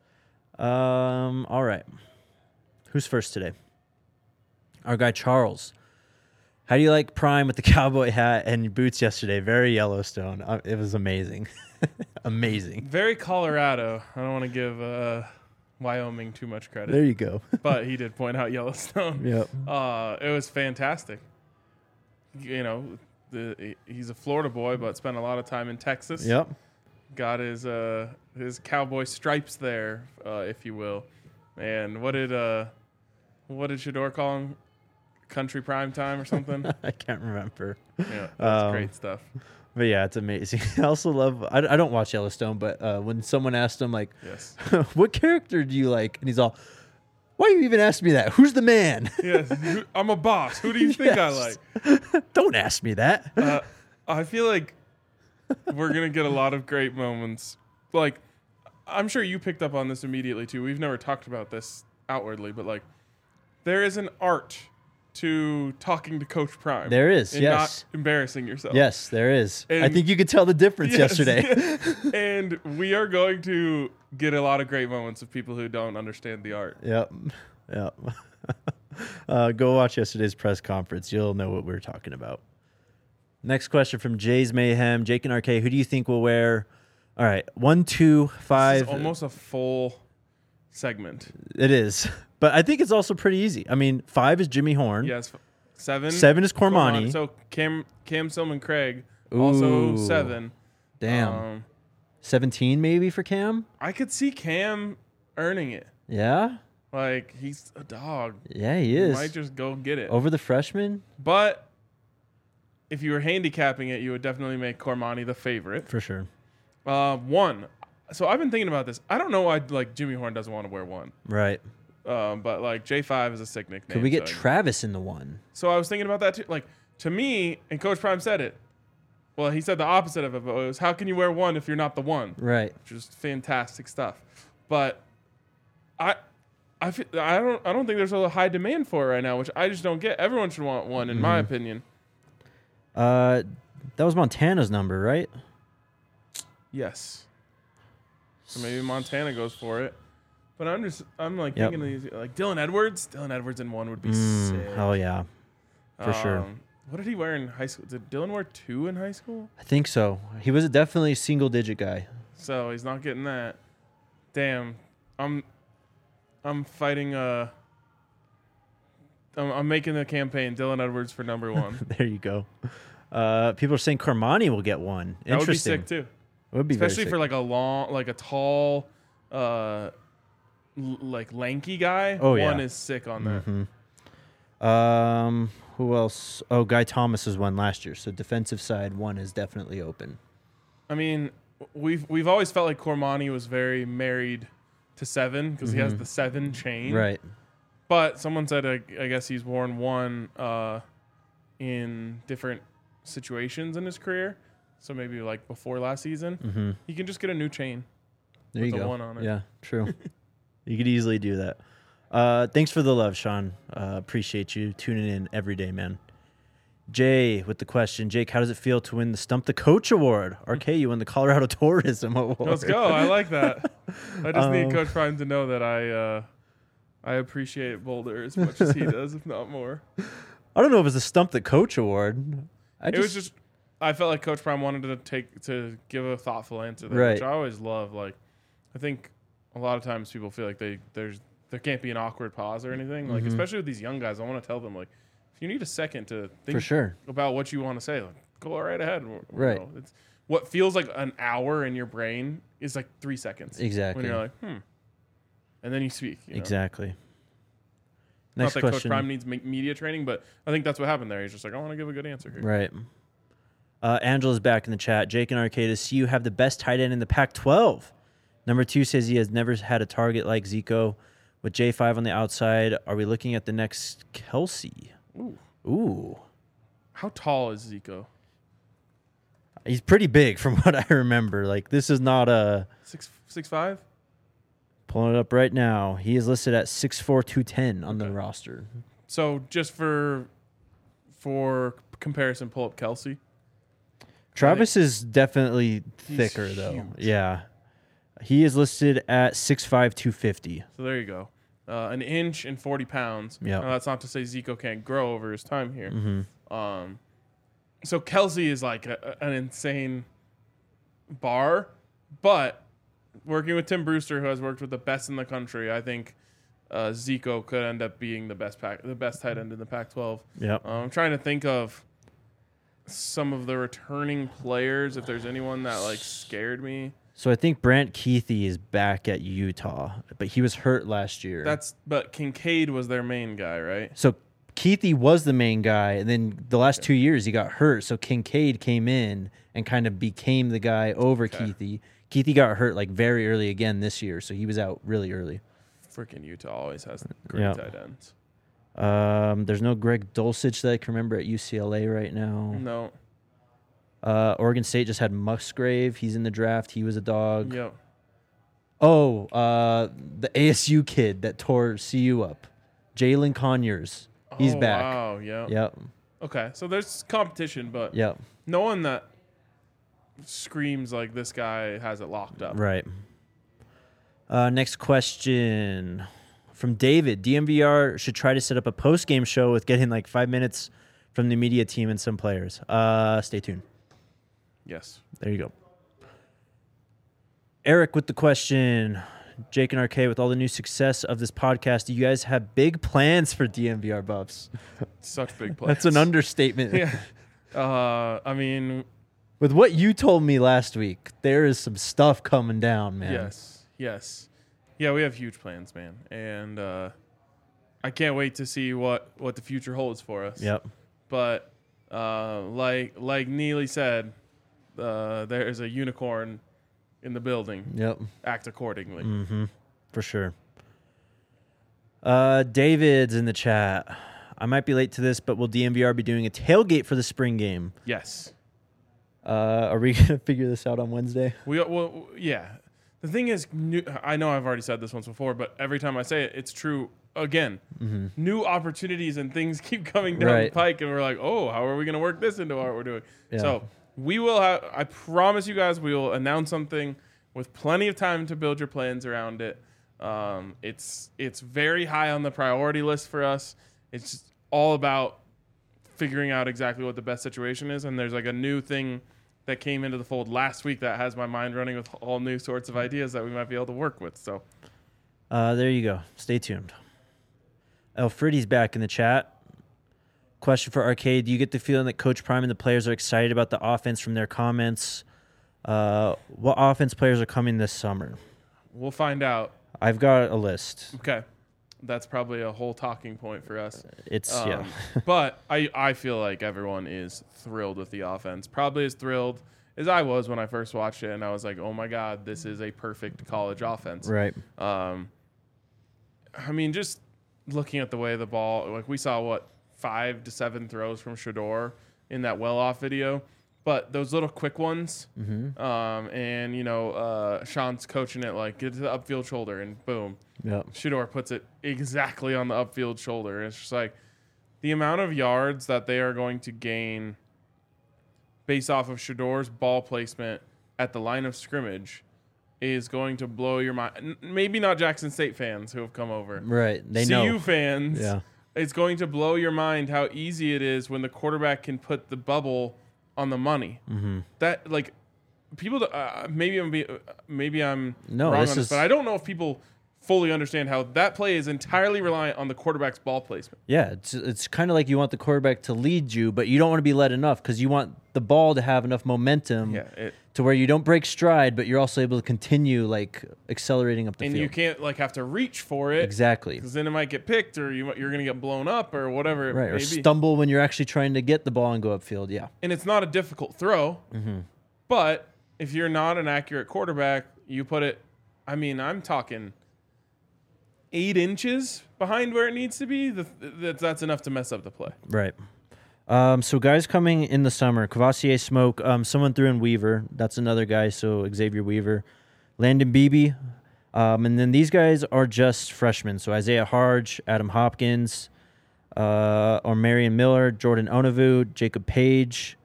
All right. Who's first today? Our guy Charles. How do you like Prime with the cowboy hat and boots yesterday? Very Yellowstone. It was amazing. Amazing. Very Colorado. I don't want to give Wyoming too much credit. There you go. But he did point out Yellowstone. Yep. It was fantastic. he's a Florida boy, but spent a lot of time in Texas. Yep. Got his cowboy stripes there, if you will. And what did Shador call him? Country prime time or something? I can't remember. Yeah, that's great stuff. But yeah, it's amazing. I also love. I don't watch Yellowstone, but when someone asked him like, Yes. "What character do you like?" and he's all, "Why you even ask me that? Who's the man?" Yes, I'm a boss. Who do you think I Yes. like? Don't ask me that. I feel like we're going to get a lot of great moments. Like, I'm sure you picked up on this immediately, too. We've never talked about this outwardly, but, like, there is an art to talking to Coach Prime. There is, and yes. not embarrassing yourself. Yes, there is. I And- think you could tell the difference Yes, yesterday. yes. And we are going to get a lot of great moments of people who don't understand the art. Yep. Go watch yesterday's press conference. You'll know what we're talking about. Next question from Jay's Mayhem. Jake and RK, who do you think will wear? All right, 1, 2, 5. This is almost a full segment. It is, but I think it's also pretty easy. I mean, 5 is Jimmy Horn. Yes, 7. 7 is Cormani. So Cam Silman Craig also Ooh. 7. Damn. 17 maybe for Cam. I could see Cam earning it. Yeah. Like, he's a dog. Yeah, he He is. might just go get it. Over the freshman But if you were handicapping it, you would definitely make Cormani the favorite. for sure. 1. So I've been thinking about this. I don't know why like Jimmy Horn doesn't want to wear 1. Right. But like J5 is a sick nickname. Could we get so Travis in the 1? So I was thinking about that too. Like, to me, and Coach Prime said it. Well, he said the opposite of it, but it was, how can you wear 1 if you're not the 1? Right. Which is fantastic stuff. But I don't think there's a high demand for it right now, which I just don't get. Everyone should want 1, in my opinion. That was Montana's number, right? Yes. So maybe Montana goes for it. But I'm like Yep. thinking of these, like Dylan Edwards. Dylan Edwards in 1 would be sick. Oh yeah, for sure. What did he wear in high school? Did Dylan wear 2 in high school? I think so. He was definitely a single digit guy. So he's not getting that. Damn. I'm fighting I'm making the campaign Dylan Edwards for number 1. There you go. People are saying Cormani will get 1. That would be Interesting. sick too. It would be very Especially sick. for like a tall like lanky guy. Oh, yeah. 1 is sick on that. Who else? Oh, Guy Thomas was 1 last year. So defensive side 1 is definitely open. I mean, we've always felt like Cormani was very married to 7 because he has the 7 chain. Right. But someone said I guess he's worn 1 in different situations in his career. So maybe like before last season, he can just get a new chain. There you with a go. 1 on it. Yeah, true. You could easily do that. Thanks for the love, Sean. Appreciate you tuning in every day, man. Jay with the question. Jake, how does it feel to win the Stump the Coach Award? RK, you won the Colorado Tourism Award. Let's go. I like that. I just need Coach Prime to know that I appreciate Boulder as much as he does, if not more. I don't know if it was the Stump the Coach Award. It was just I felt like Coach Prime wanted to give a thoughtful answer there, Right. which I always love. Like, I think a lot of times people feel like there can't be an awkward pause or anything. Like, especially with these young guys, I want to tell them, like, if you need a second to think For sure. about what you want to say, like, go right ahead. Right. It's what feels like an hour in your brain is like 3 seconds. Exactly. When you're like, and then you speak. You know? Exactly. Not Next that Coach question. Prime needs media training, but I think that's what happened there. He's just like, I want to give a good answer here. Right. Angela's back in the chat. Jake and Arcadis, you have the best tight end in the Pac-12. Number 2 says he has never had a target like Zico. With J5 on the outside, are we looking at the next Kelsey? Ooh. How tall is Zico? He's pretty big from what I remember. Like, this is not a... 6'5"? Pulling it up right now. He is listed at 6'4", 210 on the roster. So just for comparison, pull up Kelsey. Travis is definitely thicker, though. huge. Yeah. He is listed at 6'5", 250. So there you go. An inch and 40 pounds. Yep. Now, that's not to say Zico can't grow over his time here. Mm-hmm. So Kelsey is like an insane bar, but working with Tim Brewster, who has worked with the best in the country, I think Zico could end up being the best tight end in the Pac-12. Yep. I'm trying to think of some of the returning players, if there's anyone that like scared me. So I think Brant Keithy is back at Utah, but he was hurt last year. But Kincaid was their main guy, right? So Keithy was the main guy, and then the last 2 years he got hurt. So Kincaid came in and kind of became the guy over Keithy. Keithy got hurt like very early again this year, so he was out really early. Freaking Utah always has great tight ends. There's no Greg Dulcich that I can remember at UCLA right now. No. Oregon State just had Musgrave. He's in the draft. He was a dog. Yep. Oh, the ASU kid that tore CU up. Jalen Conyers. He's back. Wow, yeah. Yep. Okay, so there's competition, but Yep. no one that screams like this guy has it locked up. Right. Next question from David. DMVR should try to set up a post-game show with getting like 5 minutes from the media team and some players. Stay tuned. Yes. There you go. Eric with the question. Jake and RK, with all the new success of this podcast, do you guys have big plans for DMVR Buffs? Such big plans. That's an understatement. Yeah. I mean, with what you told me last week, there is some stuff coming down, man. Yes. Yeah, we have huge plans, man. And I can't wait to see what the future holds for us. Yep. But like Neely said, there is a unicorn in the building. Yep. Act accordingly. Mm-hmm. For sure. David's in the chat. I might be late to this, but will DMVR be doing a tailgate for the spring game? Yes. Are we going to figure this out on Wednesday? Yeah. The thing is, I know I've already said this once before, but every time I say it, it's true again. Mm-hmm. New opportunities and things keep coming down the pike, and we're like, oh, how are we going to work this into what we're doing? Yeah. So we will have, I promise you guys, we will announce something with plenty of time to build your plans around it. It's very high on the priority list for us. It's just all about figuring out exactly what the best situation is, and there's like a new thing that came into the fold last week that has my mind running with all new sorts of ideas that we might be able to work with. So there you go. Stay tuned. Alfredi's back in the chat. Question for Arcade. Do you get the feeling that Coach Prime and the players are excited about the offense from their comments? What offense players are coming this summer? We'll find out. I've got a list. Okay. That's probably a whole talking point for us. Yeah. But I feel like everyone is thrilled with the offense. Probably as thrilled as I was when I first watched it, and I was like, oh my God, this is a perfect college offense. Right. I mean, just looking at the way the ball, like we saw, 5 to 7 throws from Shedeur in that well-off video. But those little quick ones, and, Sean's coaching it, like, get to the upfield shoulder, and boom. Yep. Shedeur puts it exactly on the upfield shoulder. And it's just like the amount of yards that they are going to gain based off of Shedeur's ball placement at the line of scrimmage is going to blow your mind. Maybe not Jackson State fans who have come over. Right. They CU know. fans, Yeah. it's going to blow your mind how easy it is when the quarterback can put the bubble on the money. Mm-hmm. That, like, people, maybe I'm No, wrong this on this, is- but I don't know if people fully understand how that play is entirely reliant on the quarterback's ball placement. Yeah, it's kind of like you want the quarterback to lead you, but you don't want to be led enough because you want the ball to have enough momentum to where you don't break stride, but you're also able to continue like accelerating up the and field. you can't like have to reach for it Exactly. because then it might get picked or you're going to get blown up or whatever it Right, may or be. stumble when you're actually trying to get the ball and go upfield. Yeah. And it's not a difficult throw, Mm-hmm. but if you're not an accurate quarterback, you put it. I mean, I'm talking 8 inches behind where it needs to be. That's enough to mess up the play. Right. So guys coming in the summer, Cavassier Smoke, someone threw in Weaver. That's another guy, so Xavier Weaver. Landon Beebe. And then these guys are just freshmen. So Isaiah Harge, Adam Hopkins, or Marion Miller, Jordan Onavu, Jacob Page,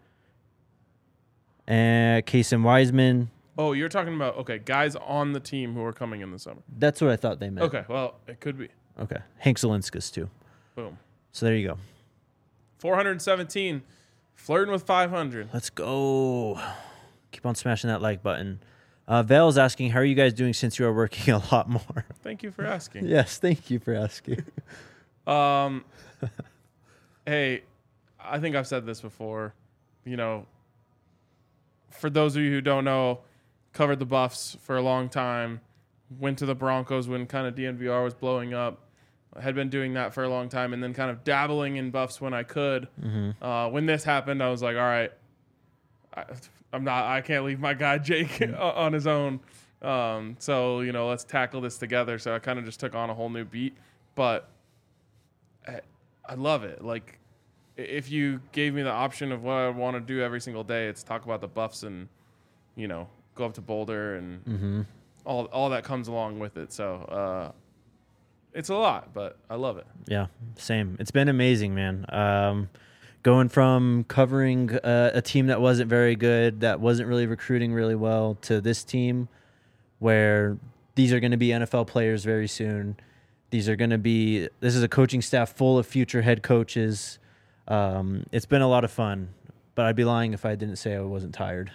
and Kason Wiseman. Oh, you're talking about, guys on the team who are coming in the summer. That's what I thought they meant. Okay, well, it could be. Okay. Hank Zelinskas, too. Boom. So there you go. 417, flirting with 500. Let's go. Keep on smashing that like button. Vale's asking, how are you guys doing since you are working a lot more? Thank you for asking. Yes, thank you for asking. Hey, I think I've said this before. for those of you who don't know, covered the Buffs for a long time, went to the Broncos when kind of DNVR was blowing up. I had been doing that for a long time and then kind of dabbling in Buffs when I could. Mm-hmm. When this happened, I was like, all right, I can't leave my guy Jake on his own. So, let's tackle this together. So I kind of just took on a whole new beat, but I love it. Like, if you gave me the option of what I want to do every single day, it's talk about the Buffs and, go up to Boulder and all that comes along with it. So, it's a lot, but I love it. Yeah, same. It's been amazing, man. Going from covering a team that wasn't very good, that wasn't really recruiting really well, to this team where these are going to be NFL players very soon. This is a coaching staff full of future head coaches. It's been a lot of fun, but I'd be lying if I didn't say I wasn't tired.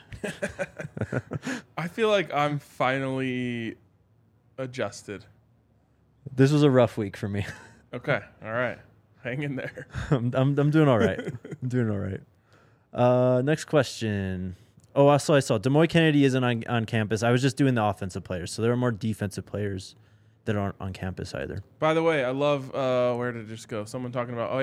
I feel like I'm finally adjusted. This was a rough week for me. Okay. All right. Hang in there. I'm doing all right. I'm doing all right. Next question. Oh, I saw Des Moines Kennedy isn't on campus. I was just doing the offensive players, so there are more defensive players that aren't on campus either. By the way, I love where did it just go? Someone talking about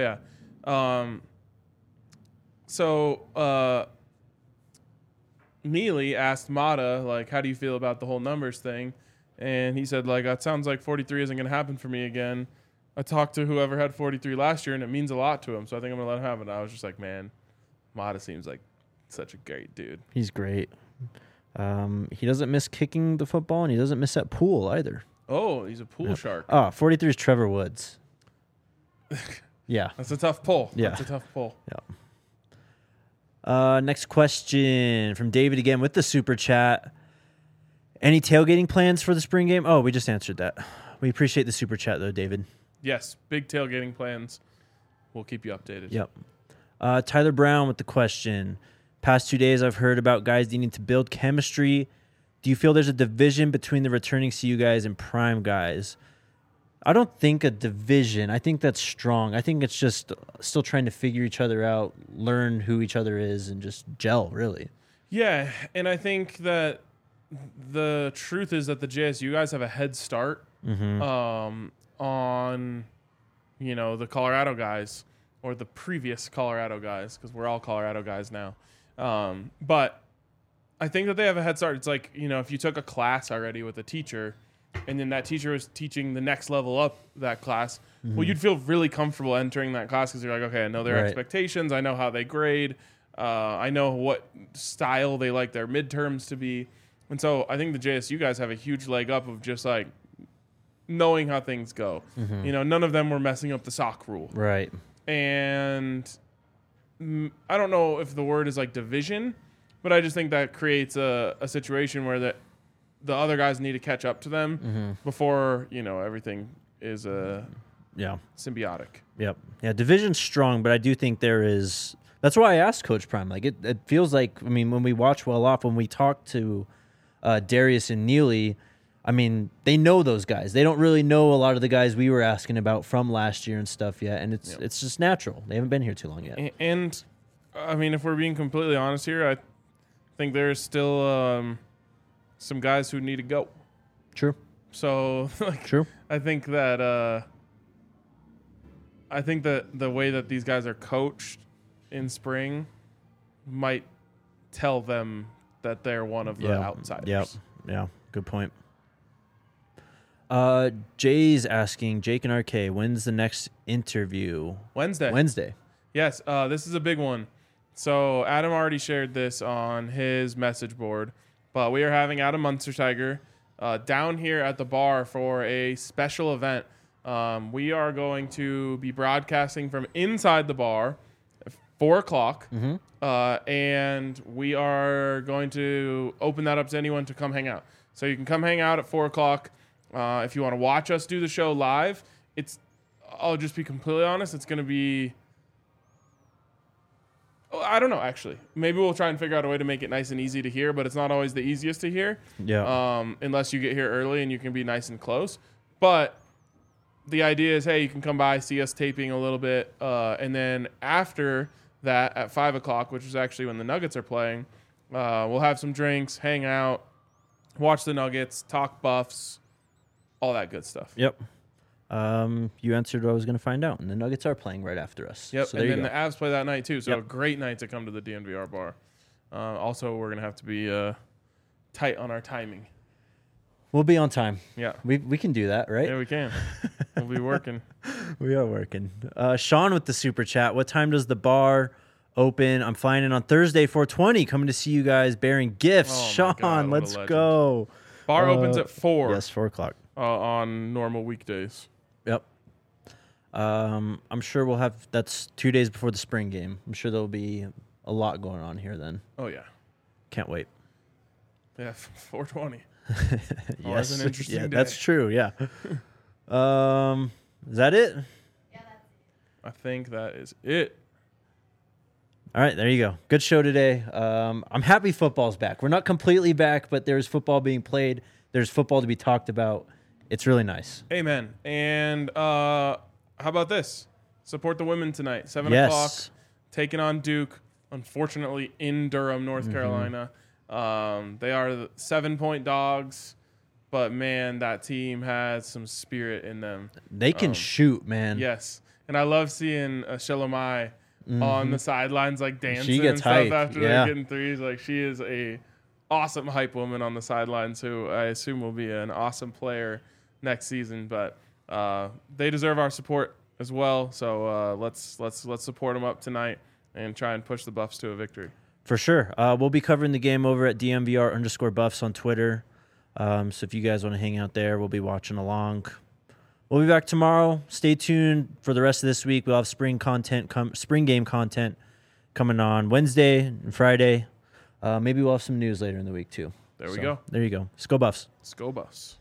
Neely asked Mata, like, how do you feel about the whole numbers thing? And he said, like, it sounds like 43 isn't going to happen for me again. I talked to whoever had 43 last year, and it means a lot to him, so I think I'm going to let him have it. And I was just like, man, Mata seems like such a great dude. He's great. He doesn't miss kicking the football, and he doesn't miss that pool either. Oh, he's a pool shark. Oh, 43 is Trevor Woods. Yeah. That's a tough pull. Yeah. That's a tough pull. Yeah. Next question from David again with the super chat. Any tailgating plans for the spring game? Oh, we just answered that. We appreciate the super chat, though, David. Yes, big tailgating plans. We'll keep you updated. Yep. Tyler Brown with the question. Past 2 days, I've heard about guys needing to build chemistry. Do you feel there's a division between the returning CU guys and prime guys? I don't think a division. I think that's strong. I think it's just still trying to figure each other out, learn who each other is, and just gel, really. Yeah, and I think that the truth is that the JSU guys have a head start on, the Colorado guys or the previous Colorado guys, because we're all Colorado guys now. But I think that they have a head start. It's like, if you took a class already with a teacher and then that teacher was teaching the next level up that class, well, you'd feel really comfortable entering that class because you're like, okay, I know their expectations. I know how they grade. I know what style they like their midterms to be. And so I think the JSU guys have a huge leg up of just like knowing how things go. None of them were messing up the sock rule. Right. And I don't know if the word is like division, but I just think that creates a situation where the other guys need to catch up to them before, everything is symbiotic. Yep. Yeah, division's strong, but I do think there is. That's why I asked Coach Prime. Like it feels like, when we watch Well Off, when we talk to Darius and Neely, they know those guys. They don't really know a lot of the guys we were asking about from last year and stuff yet, and it's just natural. They haven't been here too long yet. And if we're being completely honest here, I think there's still some guys who need to go. True. So, true. I think that the way that these guys are coached in spring might tell them that they're one of the outsiders. Yep. Yeah. Good point. Jay's asking, Jake and RK, when's the next interview? Wednesday. Yes. This is a big one. So Adam already shared this on his message board, but we are having Adam Munsterteiger down here at the bar for a special event. We are going to be broadcasting from inside the bar at 4:00. And we are going to open that up to anyone to come hang out. So you can come hang out at 4:00. If you want to watch us do the show live, I'll just be completely honest, it's going to be, I don't know, actually. Maybe we'll try and figure out a way to make it nice and easy to hear, but it's not always the easiest to hear. Yeah. Unless you get here early and you can be nice and close. But the idea is, hey, you can come by, see us taping a little bit, and then after that at 5 o'clock, which is actually when the Nuggets are playing. We'll have some drinks, hang out, watch the Nuggets, talk Buffs, all that good stuff. Yep. You answered what I was going to find out, and the Nuggets are playing right after us. Yep, So and there then you the go. Avs play that night too, so Yep. a great night to come to the DNVR bar. Also, we're going to have to be tight on our timing. We'll be on time. Yeah. We can do that, right? Yeah, we can. We'll be working. We are working. Sean with the super chat. What time does the bar open? I'm flying in on Thursday, 4:20. Coming to see you guys bearing gifts. Oh my Sean, God, what a let's legend. go. Bar opens at 4 Yes, 4 o'clock. on normal weekdays. Yep. I'm sure we'll have. That's 2 days before the spring game. I'm sure there'll be a lot going on here then. Oh, yeah. Can't wait. Yeah, 420. Yes. an interesting yeah, day. that's true. Yeah. Is that it? I think that is it. All right, there you go. Good show today. I'm happy football's back. We're not completely back, but there's football being played. There's football to be talked about. It's really nice. Amen. And how about this? Support the women tonight, 7 Yes. o'clock, taking on Duke, unfortunately in Durham, North Mm-hmm. Carolina. They are the 7-point dogs, but, man, that team has some spirit in them. They can shoot, man. Yes. And I love seeing Shalomai on the sidelines, like dancing gets and stuff hype, after yeah. they're getting threes. Like, she is a awesome hype woman on the sidelines who I assume will be an awesome player next season. But they deserve our support as well. So let's support them up tonight and try and push the Buffs to a victory. For sure. We'll be covering the game over at DMVR_Buffs on Twitter. So if you guys want to hang out there, we'll be watching along. We'll be back tomorrow. Stay tuned for the rest of this week. We'll have spring game content coming on Wednesday and Friday. Maybe we'll have some news later in the week too. There we So, go. There you go. Let's go Buffs. Let's go Buffs.